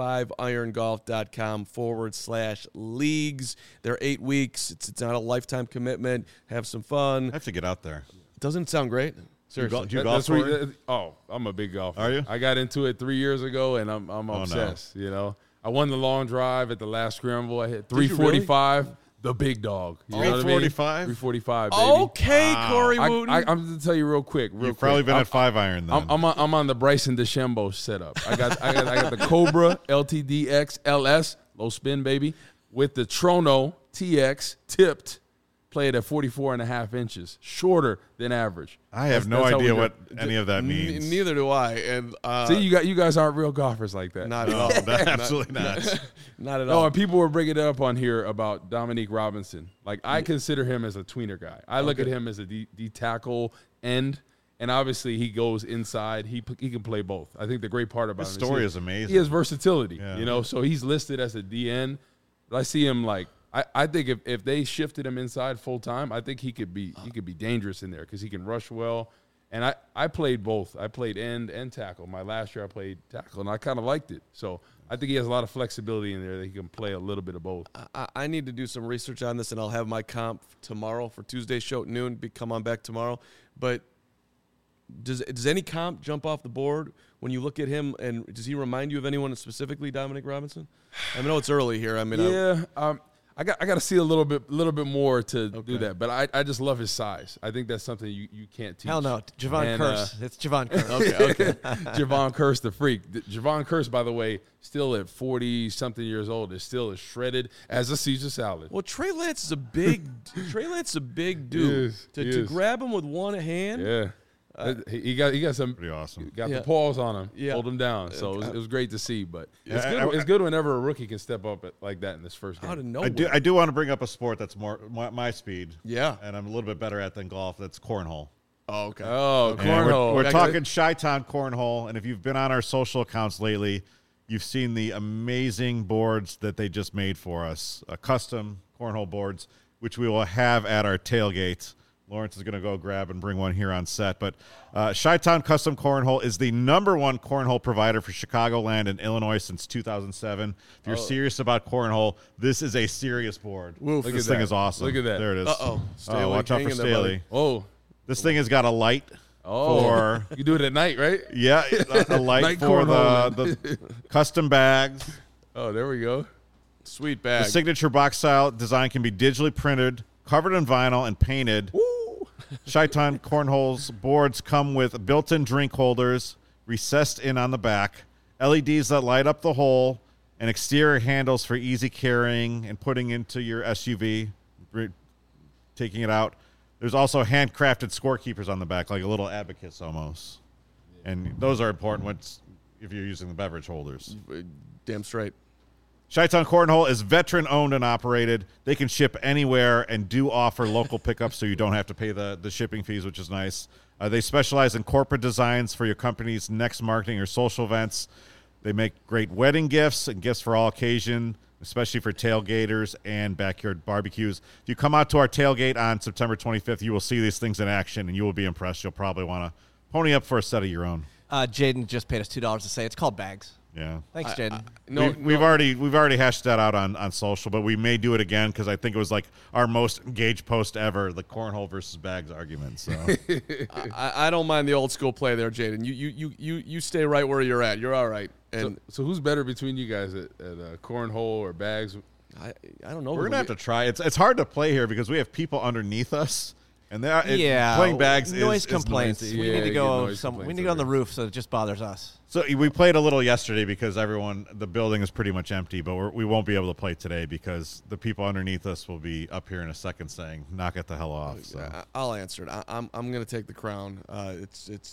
5irongolf.com/leagues. They're 8 weeks. It's not a lifetime commitment. Have some fun. I have to get out there. Doesn't it sound great? Seriously. Do you golf? I'm a big golfer. Are you? I got into it 3 years ago, and I'm obsessed. No. I won the long drive at the last scramble. I hit 345. Really? The big dog. You know what I mean? 345, baby. Okay, Corey Wooten. I'm going to tell you real quick. You've probably been at 5 Iron then. I'm on the Bryson DeChambeau setup. I got the Cobra LTDX LS, low spin, baby, with the Trono TX tipped. Played at 44.5 inches, shorter than average. I have no idea what any of that means. Neither do I. And see, you guys aren't real golfers like that. Not at all. Absolutely not. Not at all. No, and people were bringing it up on here about Dominique Robinson. Like, I consider him as a tweener guy. I look at him as a D tackle end, and obviously he goes inside. He can play both. I think the great part about his story is amazing. He has versatility. Yeah. So he's listed as a DN. But I see him like. I think if they shifted him inside full time, I think he could be dangerous in there because he can rush well. And I played both. I played end and tackle. My last year I played tackle, and I kind of liked it. So I think he has a lot of flexibility in there that he can play a little bit of both. I need to do some research on this, and I'll have my comp tomorrow for Tuesday's show at noon. Come on back tomorrow. But does any comp jump off the board when you look at him, and does he remind you of anyone specifically, Dominic Robinson? I know it's early here. I mean, I got to see a little bit more to do that, but I just love his size. I think that's something you can't teach. Hell no, Javon Curse. It's Javon Curse. Okay. Javon Curse, the freak. Javon Curse, by the way, still at 40-something years old, is still as shredded as a Caesar salad. Well, Trey Lance is a big dude. To grab him with one hand. Yeah. He got some pretty awesome. Got the paws on him, hold him down. So it was great to see. But it's good whenever a rookie can step up like that in this first game. Out of nowhere. I do want to bring up a sport that's more my speed. Yeah, and I'm a little bit better at than golf. That's cornhole. Oh, okay. Oh, cornhole. We're talking Chi-Town cornhole, and if you've been on our social accounts lately, you've seen the amazing boards that they just made for us, custom cornhole boards, which we will have at our tailgate. Lawrence is going to go grab and bring one here on set. But Chi-Town Custom Cornhole is the #1 cornhole provider for Chicagoland and Illinois since 2007. If you're serious about cornhole, this is a serious board. Woof. This thing is awesome. Look at that. There it is. Uh-oh. Watch out for Staley. Oh. This thing has got a light. For you do it at night, right? Yeah, a light for the custom bags. Oh, there we go. Sweet bag. The signature box style design can be digitally printed, covered in vinyl, and painted. Woo! Chi-Town Cornholes boards come with built-in drink holders, recessed in on the back, LEDs that light up the hole, and exterior handles for easy carrying and putting into your SUV, taking it out. There's also handcrafted scorekeepers on the back, like a little abacus almost. And those are important if you're using the beverage holders. Damn straight. Chi-Town Cornhole is veteran-owned and operated. They can ship anywhere and do offer local pickups so you don't have to pay the shipping fees, which is nice. They specialize in corporate designs for your company's next marketing or social events. They make great wedding gifts and gifts for all occasion, especially for tailgaters and backyard barbecues. If you come out to our tailgate on September 25th, you will see these things in action, and you will be impressed. You'll probably want to pony up for a set of your own. Jaden just paid us $2 to say it's called bags. Yeah. Thanks, Jaden. We've already hashed that out on social, but we may do it again because I think it was like our most engaged post ever, the cornhole versus bags argument. So I don't mind the old school play there, Jaden. You stay right where you're at. You're all right. And so who's better between you guys at cornhole or bags? I don't know. We're gonna have to try. It's hard to play here because we have people underneath us. And playing bags noise is complaints. noisy. We need to go. We need to go on the roof, so it just bothers us. So we played a little yesterday because the building is pretty much empty. But we won't be able to play today because the people underneath us will be up here in a second saying, "Knock it the hell off." So. I'll answer it. I'm gonna take the crown. I'm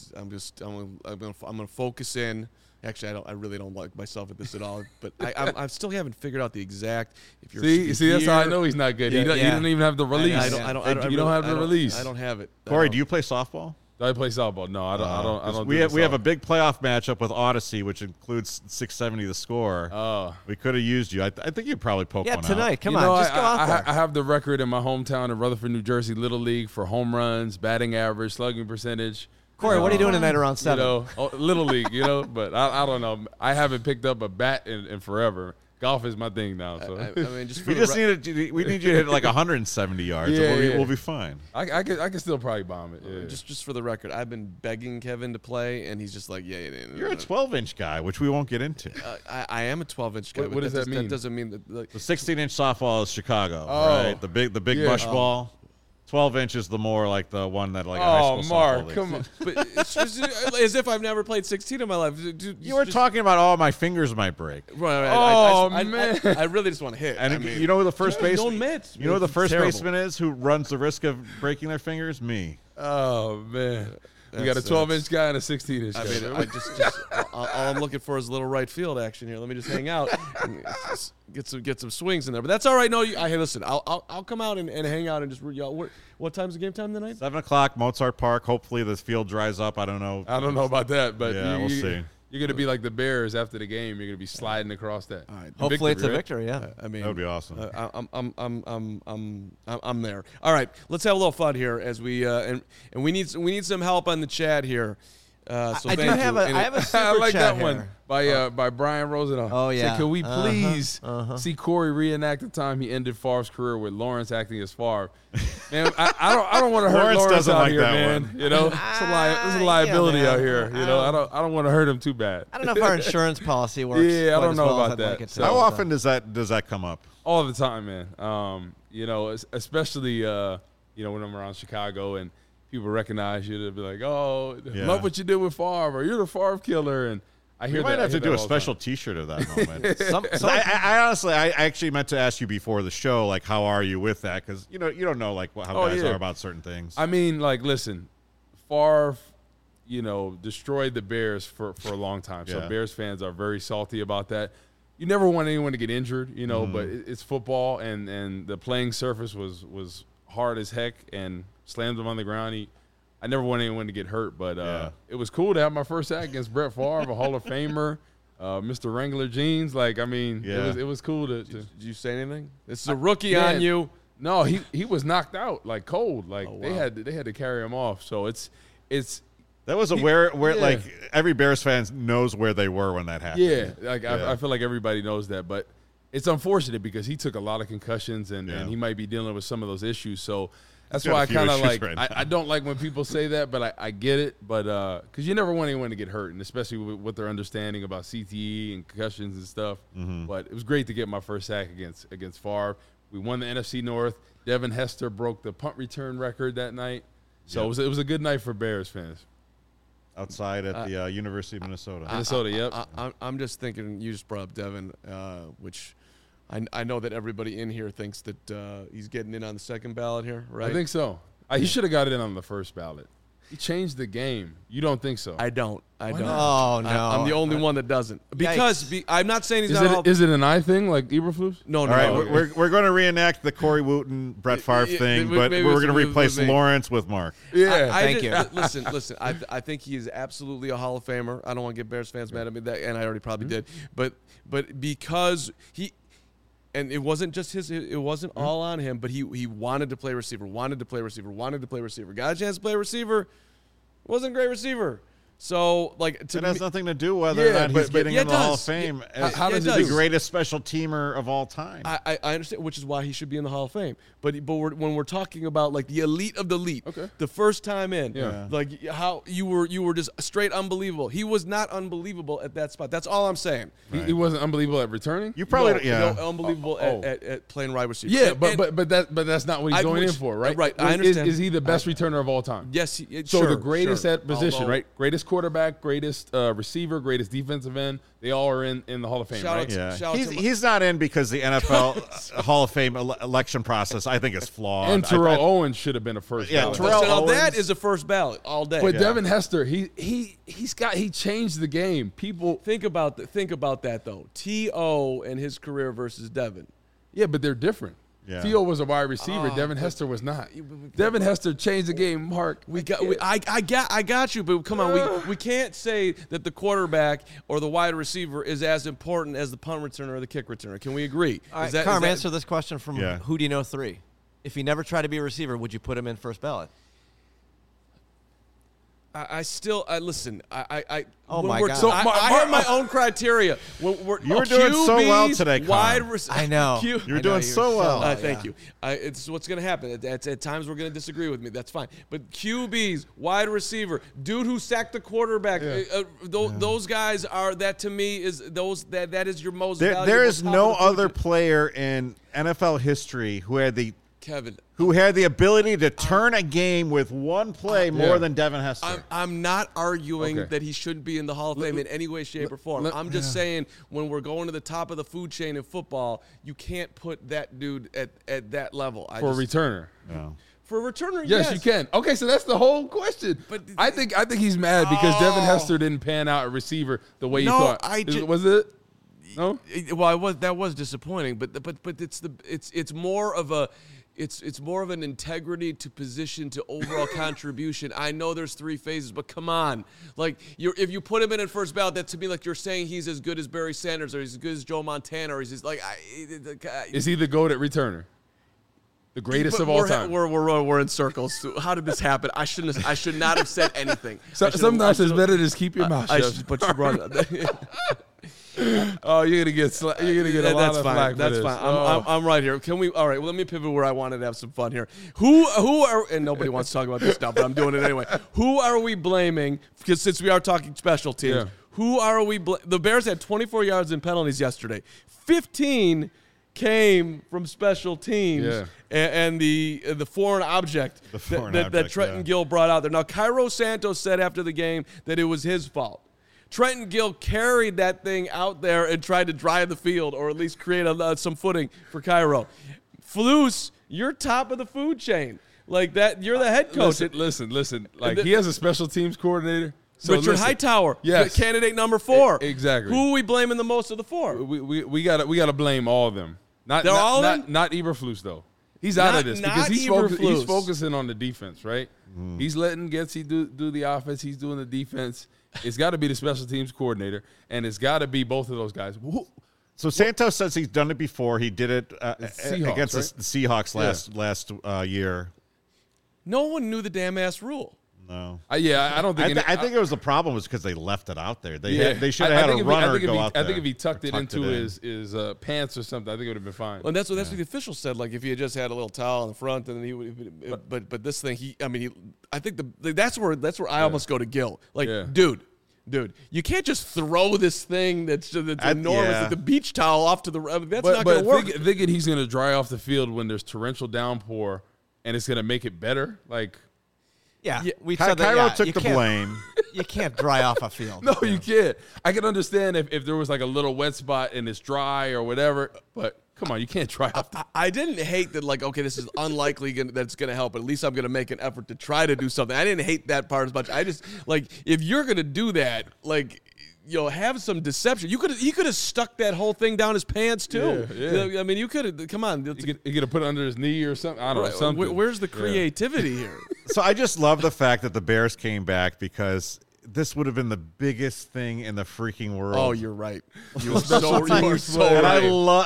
gonna focus in. Actually, I really don't like myself at this at all. But I still haven't figured out the exact. If you're see, that's how I know he's not good. He doesn't even have the release. You don't have the release. I don't have it. Corey, do you play softball? Do I play softball? No, I don't. We have a big playoff matchup with Odyssey, which includes 670 the score. Oh, we could have used you. I think you'd probably poke one out. Yeah, tonight. Come on, just go out there. I have the record in my hometown of Rutherford, New Jersey, Little League for home runs, batting average, slugging percentage. Corey, what are you doing tonight around 7? Little League, but I don't know. I haven't picked up a bat in forever. Golf is my thing now. So we need you to hit like 170 yards. And we'll be fine. I can still probably bomb it. Yeah. Just for the record, I've been begging Kevin to play, and he's just like, You're a 12-inch guy, which we won't get into. I am a 12-inch guy. What does that mean? That doesn't mean that. The 16-inch softball is Chicago, right? The big bush ball. 12 inches, the more like the one that like. Oh, Mark, come on! But it's just as if I've never played 16 in my life. You were talking about my fingers might break. Right. Man! I really just want to hit. And you know who the first baseman? You know who the first terrible. baseman is who runs the risk of breaking their fingers? Me. Oh man! We got a 12-inch guy and a 16-inch guy. I mean, all I'm looking for is a little right field action here. Let me just hang out, and get some swings in there. But that's all right. No, hey, listen, I'll come out and hang out and just what time's the game time tonight? 7:00, Mozart Park. Hopefully the field dries up. I don't know. I don't know about that, but we'll see. You're going to be like the Bears after the game. You're going to be sliding across that. All right. Hopefully it's a victory, yeah. I mean, that would be awesome. I'm there. All right, let's have a little fun here as we and we need some help on the chat here. So I have a super I like chat that one by Brian Rosenau. Oh yeah. Said, can we please see Corey reenact the time he ended Favre's career with Lawrence acting as Favre? Man, I don't want to hurt Lawrence out here, man. One. It's a liability out here. I don't want to hurt him too bad. I don't know if our insurance policy works. Yeah, I don't know about that. Like how often does that come up? All the time, man. Especially when I'm around Chicago and people recognize you, they'll be like, "Oh, love what you did with Favre, or you're the Favre killer." And I hear we might have to do a special T-shirt of that moment. I actually meant to ask you before the show, like, how are you with that? Because you don't know like how guys are about certain things. I mean, like, listen, Favre, destroyed the Bears for a long time. So Bears fans are very salty about that. You never want anyone to get injured, but it's football, and the playing surface was hard as heck and slammed him on the ground. I never want anyone to get hurt, but it was cool to have my first act against Brett Favre, a Hall of Famer, Mr. Wrangler jeans. It was cool to. Did you say anything? This is a rookie on you. No, he was knocked out like cold. They had to carry him off. So it's. That was where like every Bears fan knows where they were when that happened. Yeah, I feel like everybody knows that, but it's unfortunate because he took a lot of concussions and he might be dealing with some of those issues. So that's why I kind of like I don't like when people say that, but I get it. But because you never want anyone to get hurt, and especially with what their understanding about CTE and concussions and stuff. But it was great to get my first sack against Favre. We won the NFC North. Devin Hester broke the punt return record that night. So it was a good night for Bears fans. Outside at the University of Minnesota. I'm just thinking, you just brought up Devin, which I know that everybody in here thinks that he's getting in on the second ballot here, right? I think so. He should have got it in on the first ballot. He changed the game. You don't think so? I don't. Oh, no. I'm the only one that doesn't. Because I'm not saying he's not. Is it an eye thing like Eberflus? No. All right, we're going to reenact the Corey Wooten, Brett Favre thing, but we're going to replace Lawrence with Mark. Yeah, thank you. Listen. I think he is absolutely a Hall of Famer. I don't want to get Bears fans mad at me, and I already probably did. But because he. And it wasn't just it wasn't all on him, but he wanted to play receiver, wanted to play receiver. Got a chance to play receiver, wasn't a great receiver. So, like, it has nothing to do whether or not he's getting in the Hall of Fame. How does he the greatest special teamer of all time? I understand, which is why he should be in the Hall of Fame. But when we're talking about like the elite of the elite, the first time in, like how you were just straight unbelievable. He was not unbelievable at that spot. That's all I'm saying. Right. He wasn't unbelievable at returning. You probably no, unbelievable at playing wide receiver. Yeah, but that's not what he's going in for, right? Right, I understand. Is he the best returner of all time? Yes. So the greatest at position, right? Greatest quarterback, greatest receiver, greatest defensive end. They all are in the Hall of Fame, right? Yeah. He's not in because the NFL Hall of Fame election process, I think, is flawed. And Terrell Owens should have been a first ballot. Terrell Owens, that is a first ballot all day. But Devin Hester, he changed the game. People think about that though. T.O. and his career versus Devin. Yeah, but they're different. Yeah. T.O. was a wide receiver. Devin Hester was not. Devin Hester changed the game. Mark, I got you, but come on, we can't say that the quarterback or the wide receiver is as important as the punt returner or the kick returner. Can we agree? Carm, answer this question from Who Do You Know 3. If he never tried to be a receiver, would you put him in first ballot? Listen. Oh my God! So I have my own criteria. You were doing so well today, I know. You were doing so well. Thank you. It's what's going to happen. At times we're going to disagree with me. That's fine. But QBs, wide receiver, dude who sacked the quarterback. Those guys are that to me is that is your most valuable. There is no other player in NFL history who had the Kevin. Who had the ability to turn a game with one play more than Devin Hester. I'm not arguing that he shouldn't be in the Hall of Fame in any way, shape, or form. I'm just saying when we're going to the top of the food chain in football, you can't put that dude at that level. For a returner. No. For a returner, yes, you can. Okay, so that's the whole question. But I think he's mad because Devin Hester didn't pan out a receiver the way you thought. Was it? No. Well, that was disappointing, but it's more of a. It's more of an integrity to position to overall contribution. I know there's 3 phases, but come on. Like, if you put him in at first ballot, that to me, like, you're saying he's as good as Barry Sanders or he's as good as Joe Montana or he's just like... Is he the GOAT at returner? The greatest of all time. We're in circles. How did this happen? I should not have said anything. Sometimes it's better to just keep your mouth shut. But you brought it. Oh, you're gonna get a lot of flack. That's fine. I'm right here. Can we? All right. Well, let me pivot where I wanted to have some fun here. Who are? And nobody wants to talk about this stuff, but I'm doing it anyway. Who are we blaming? Because since we are talking special teams, who are we? The Bears had 24 yards in penalties yesterday. 15 came from special teams and the foreign object that Trenton Gill brought out there. Now, Cairo Santos said after the game that it was his fault. Trenton Gill carried that thing out there and tried to drive the field or at least create some footing for Cairo. Flus, you're top of the food chain. Like that, you're the head coach. Listen. Like he has a special teams coordinator. So Richard Hightower, candidate number 4. Exactly. Who are we blaming the most of the 4? We gotta blame all of them. Not Eberflus though. He's out of this because he's focusing on the defense, right? He's letting Getsy do the offense. He's doing the defense. It's got to be the special teams coordinator, and it's got to be both of those guys. So Santos says he's done it before. He did it against the Seahawks last year. No one knew the damn ass rule. No. I don't think. I think it was the problem was because they left it out there. They should have had a runner go out there. I think if he tucked it into his pants or something, I think it would have been fine. Well, and that's what the official said. Like if he had just had a little towel in the front, and then he would. But this thing, I think that's where I almost go to Gil. Like, dude, you can't just throw this thing that's enormous, like the beach towel, off to the. That's not going to work. Thinking he's going to dry off the field when there's torrential downpour, and it's going to make it better, like. Yeah, we said that. Cairo took the blame. You can't dry off a field. No, you can't. I can understand if there was like a little wet spot and it's dry or whatever, but come on, you can't dry off. I didn't hate that, like, okay, this is unlikely that's going to help, but at least I'm going to make an effort to try to do something. I didn't hate that part as much. I just, like, if you're going to do that, like, have some deception. He could have stuck that whole thing down his pants too. Yeah. I mean, you could have. Come on, you could have put it under his knee or something. I don't know. Something. Where's the creativity here? So I just love the fact that the Bears came back because this would have been the biggest thing in the freaking world. Oh, you're right. You are so right. And I love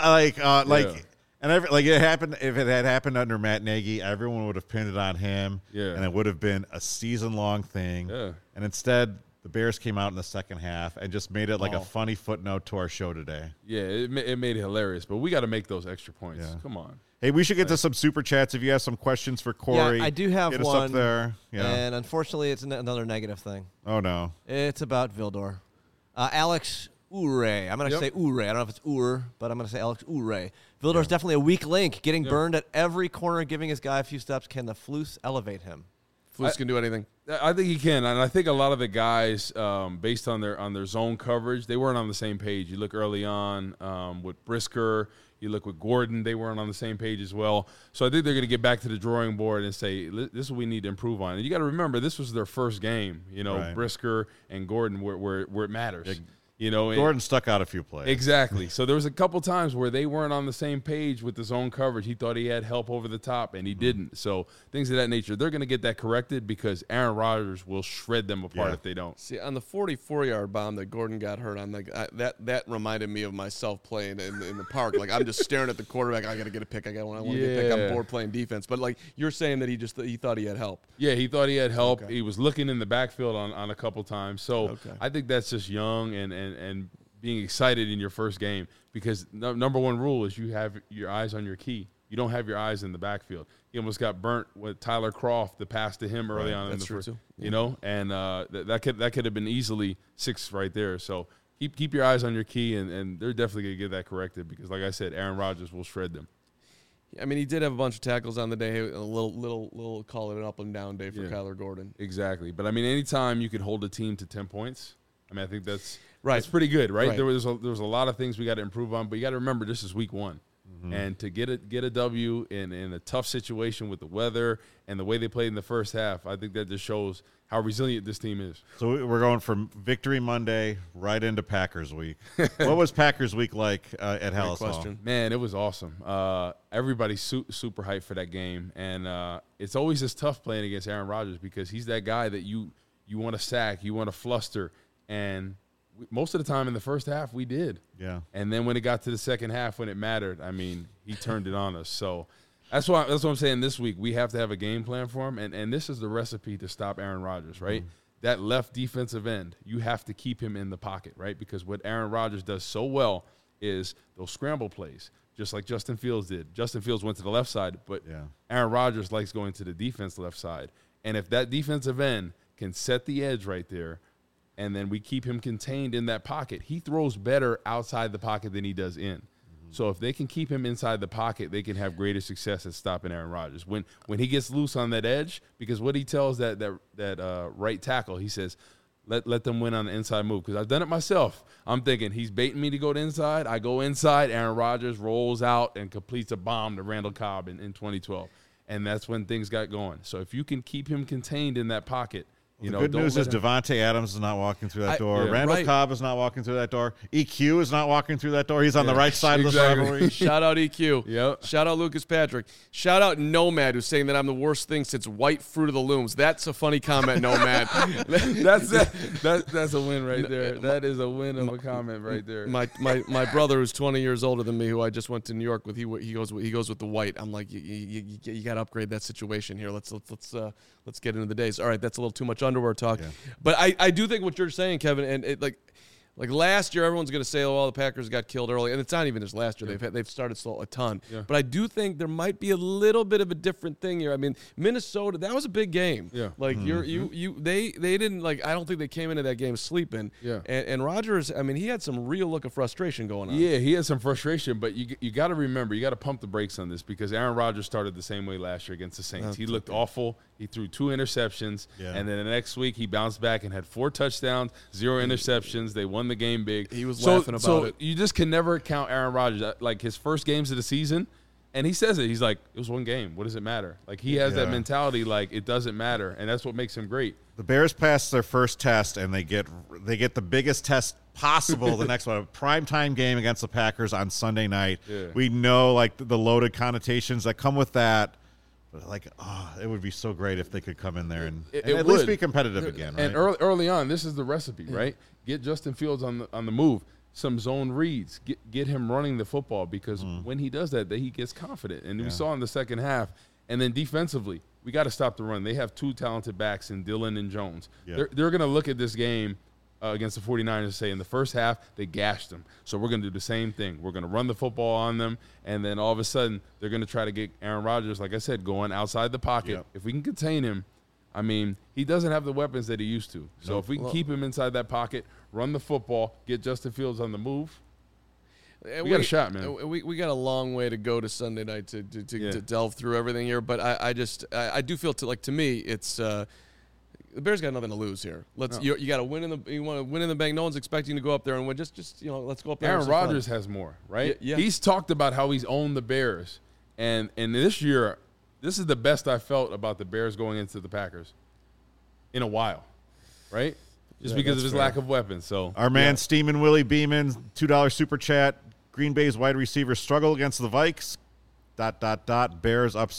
and it happened. If it had happened under Matt Nagy, everyone would have pinned it on him. Yeah. And it would have been a season-long thing. Yeah. And instead, the Bears came out in the second half and just made it like a funny footnote to our show today. Yeah, it made it hilarious. But we got to make those extra points. Yeah. Come on. Hey, we should get to some super chats. If you have some questions for Corey, I do have get one. Us up there. Yeah. And unfortunately, it's another negative thing. Oh, no. It's about Vildor. Alex Ure. I'm going to say Ure. I don't know if it's Ur, but I'm going to say Alex Ure. Vildor's definitely a weak link, getting burned at every corner, giving his guy a few steps. Can the Flus elevate him? Flus can do anything. I think he can, and I think a lot of the guys, based on their zone coverage, they weren't on the same page. You look early on with Brisker, you look with Gordon, they weren't on the same page as well. So I think they're going to get back to the drawing board and say, this is what we need to improve on. And you got to remember, this was their first game, Brisker and Gordon where it matters. Gordon stuck out a few plays. Exactly. So there was a couple times where they weren't on the same page with the zone coverage. He thought he had help over the top, and he didn't. So things of that nature, they're going to get that corrected because Aaron Rodgers will shred them apart if they don't. See, on the 44-yard bomb that Gordon got hurt on, that reminded me of myself playing in the park. Like, I'm just staring at the quarterback. I got to get a pick. I want to get a pick. I'm bored playing defense. But, like, you're saying that he thought he had help. Yeah, he thought he had help. Okay. He was looking in the backfield on a couple times. So I think that's just young and being excited in your first game because number one rule is you have your eyes on your key. You don't have your eyes in the backfield. He almost got burnt with Tyler Kroft, the pass to him early on in the first, and that could have been easily 6 right there. So keep your eyes on your key, and they're definitely going to get that corrected because, like I said, Aaron Rodgers will shred them. I mean, he did have a bunch of tackles on the day. A little call it an up and down day for Kyler Gordon. Exactly. But, I mean, anytime you can hold a team to 10 points, I mean, I think that's pretty good, right? There was a lot of things we got to improve on, but you got to remember this is week 1. Mm-hmm. And to get a W in a tough situation with the weather and the way they played in the first half, I think that just shows how resilient this team is. So we're going from Victory Monday right into Packers Week. What was Packers Week like at Halas Hall? Man, it was awesome. Everybody's super hyped for that game. And it's always just tough playing against Aaron Rodgers because he's that guy that you want to sack, you want to fluster. And most of the time in the first half, we did. Yeah. And then when it got to the second half, when it mattered, I mean, he turned it on us. So that's what I'm saying this week. We have to have a game plan for him. And this is the recipe to stop Aaron Rodgers, right? Mm-hmm. That left defensive end, you have to keep him in the pocket, right? Because what Aaron Rodgers does so well is those scramble plays, just like Justin Fields did. Justin Fields went to the left side, but Aaron Rodgers likes going to the defense left side. And if that defensive end can set the edge right there, and then we keep him contained in that pocket, he throws better outside the pocket than he does in. Mm-hmm. So if they can keep him inside the pocket, they can have greater success at stopping Aaron Rodgers. When he gets loose on that edge, because what he tells that right tackle, he says, let them win on the inside move. Because I've done it myself. I'm thinking he's baiting me to go to inside. I go inside. Aaron Rodgers rolls out and completes a bomb to Randall Cobb in 2012. And that's when things got going. So if you can keep him contained in that pocket, You The know, good don't news let is him- Devontae Adams is not walking through that door. Yeah. Randall Right. Cobb is not walking through that door. EQ is not walking through that door. He's on the right side of this exactly. rivalry. Shout out EQ. Yep. Shout out Lucas Patrick. Shout out Nomad, who's saying that I'm the worst thing since White Fruit of the Looms. That's a funny comment, Nomad. That's a win right there. That is a win of a comment right there. My brother, who's 20 years older than me, who I just went to New York with, he goes with the white. I'm like, you got to upgrade that situation here. Let's get into the days. All right, that's a little too much underwear talk. Yeah. But I do think what you're saying, Kevin, and it, like last year, everyone's going to say, oh, the Packers got killed early. And it's not even just last year. They've started slow a ton. Yeah. But I do think there might be a little bit of a different thing here. I mean, Minnesota, that was a big game. Yeah. Like, they didn't, like, I don't think they came into that game sleeping. Yeah. And Rodgers, I mean, he had some real look of frustration going on. Yeah, he had some frustration, but you got to remember, you got to pump the brakes on this because Aaron Rodgers started the same way last year against the Saints. He looked awful. He threw 2 interceptions, and then the next week he bounced back and had 4 touchdowns, 0 interceptions. They won the game big. He was laughing about it. You just can never count Aaron Rodgers. Like his first games of the season, and he says it. He's like, it was one game. What does it matter? Like he has that mentality like it doesn't matter, and that's what makes him great. The Bears passed their first test, and they get the biggest test possible the next one. A primetime game against the Packers on Sunday night. Yeah. We know like the loaded connotations that come with that. But like, it would be so great if they could come in there and at least be competitive again. Right? And early on, this is the recipe, right? Get Justin Fields on the move. Some zone reads. Get him running the football because when he does that, he gets confident. And we saw in the second half. And then defensively, we got to stop the run. They have 2 talented backs in Dillon and Jones. Yeah. They're going to look at this game against the 49ers and say in the first half, they gashed them. So we're going to do the same thing. We're going to run the football on them. And then all of a sudden, they're going to try to get Aaron Rodgers, like I said, going outside the pocket. Yep. If we can contain him, I mean, he doesn't have the weapons that he used to. So if we can keep him inside that pocket, run the football, get Justin Fields on the move, we got a shot, man. We got a long way to go to Sunday night to delve through everything here. But I do feel to me it's the Bears got nothing to lose here. You got to win you want to win in the bank. No one's expecting to go up there and win. Just let's go up there. Aaron Rodgers has more, right? Yeah. He's talked about how he's owned the Bears, and this year, this is the best I felt about the Bears going into the Packers in a while, right? Just because of his lack of weapons. So Our man Steamin' Willie Beeman, $2 super chat. Green Bay's wide receivers struggle against the Vikes. ... Bears upset ?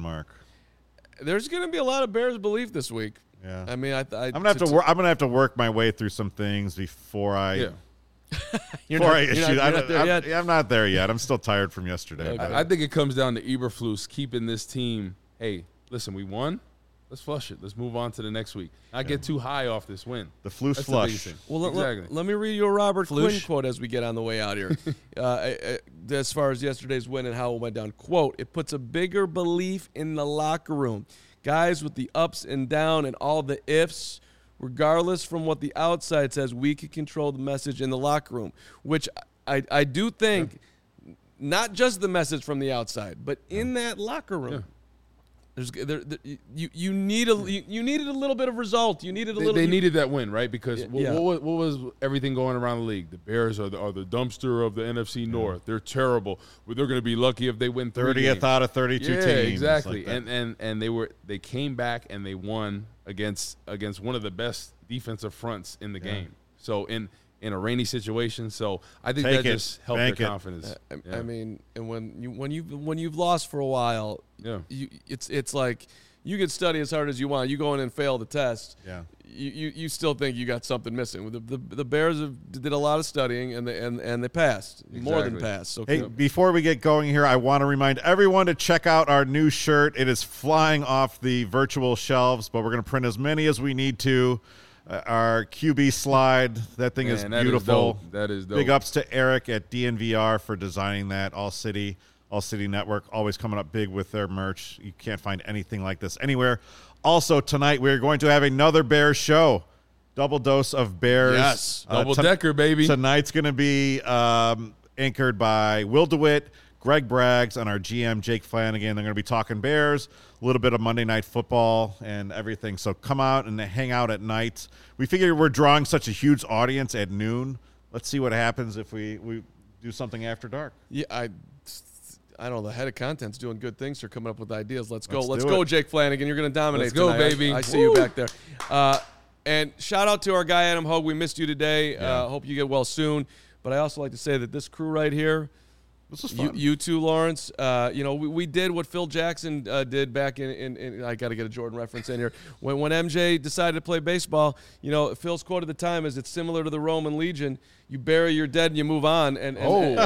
There's going to be a lot of Bears belief this week. Yeah. I mean, I'm I'm gonna have to work my way through some things before I. yeah. You're Before not, I you're issue, not there yet. I'm not there yet. I'm still tired from yesterday. Okay. but- I think it comes down to Eberflus keeping this team. Hey, listen, we won. Let's flush it. Let's move on to the next week. Not get too high off this win. The Flus That's flush. the biggest thing. Well, exactly. let me read you a Robert Quinn Floosh. quote as we get on the way out here. As far as yesterday's win and how it went down, quote, "It puts a bigger belief in the locker room. Guys with the ups and down and all the ifs, regardless from what the outside says, we can control the message in the locker room," which I do think, not just the message from the outside, but in that locker room. Yeah. You needed a little bit of result. You needed a little. They needed that win, right? Because Yeah. what was everything going around the league? The Bears are the dumpster of the NFC North. They're terrible. But they're going to be lucky if they win 30 30th games. out of 32 Yeah, teams. exactly. Like that. And they came back and they won against one of the best defensive fronts in the game. So in a rainy situation, so I think Take that it. just helped Bank their it. confidence. I mean, and when you've lost for a while, Yeah. it's like you could study as hard as you want. You go in and fail the test. Yeah. You still think you got something missing. The Bears did a lot of studying and they passed, more than Exactly. passed. So Hey, before we get going here, I want to remind everyone to check out our new shirt. It is flying off the virtual shelves, but we're going to print as many as we need to. Our QB slide, that thing is Man, that is beautiful. dope. That is dope. Big ups to Eric at DNVR for designing that. All City Network, always coming up big with their merch. You can't find anything like this anywhere. Also, tonight we're going to have another Bears show. Double dose of Bears. Yes. Double-decker, baby. Tonight's going to be anchored by Will DeWitt, Greg Braggs, and our GM, Jake Flanagan. They're going to be talking Bears, a little bit of Monday Night Football and everything. So come out and hang out at night. We figure we're drawing such a huge audience at noon. Let's see what happens if we do something after dark. yeah, I don't know. The head of content's doing good things here, coming up with ideas. Let's go. Let's Let's do go, it. Jake Flanagan. You're going to dominate Let's go, tonight. baby. I see you back there. And shout out to our guy, Adam Hogue. We missed you today. Hope you get well soon. But I also like to say that this crew right here, This was fun. you too, Lawrence. We did what Phil Jackson did back in I got to get a Jordan reference in here. When MJ decided to play baseball, Phil's quote at the time is, "It's similar to the Roman Legion. You bury your dead and you move on." And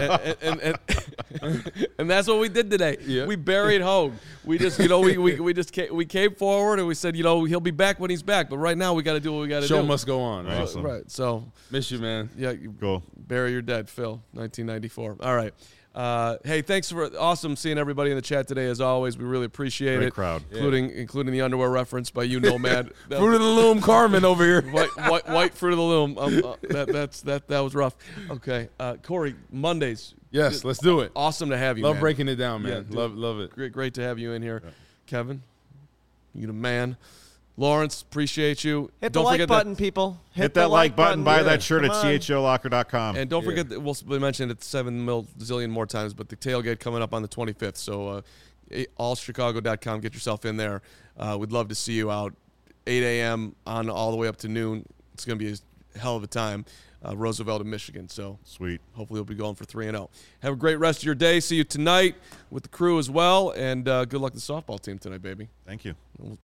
that's what we did today. Yeah. We buried Hogue. We just we came forward and we said, he'll be back when he's back. But right now we got to do what we got to do. Show must go on, right? Awesome. Right. So Miss you, man. yeah, Go. bury your dead, Phil. 1994. All right. Hey, thanks for awesome seeing everybody in the chat today. As always, we really appreciate Great it. crowd. Including the underwear reference by you, Nomad. Fruit of the Loom, Carmen over here. white fruit of the loom. That was rough. Okay, Corey. Mondays. Yes, let's do it. Awesome to have you. Love man. breaking it down, man. Yeah, dude. love it. Great to have you in here, Kevin. You the man. Lawrence, appreciate you. Hit the Don't like forget button, people. Hit that like button. Buy Yeah, that shirt come at on. cholocker.com. And don't forget that we'll mention it 7 zillion more times, but the tailgate coming up on the 25th. So allchicago.com, get yourself in there. We'd love to see you out 8 a.m. on all the way up to noon. It's going to be a hell of a time. Roosevelt in Michigan. So Sweet. hopefully we'll be going for 3-0. Have a great rest of your day. See you tonight with the crew as well. And good luck to the softball team tonight, baby. Thank you. We'll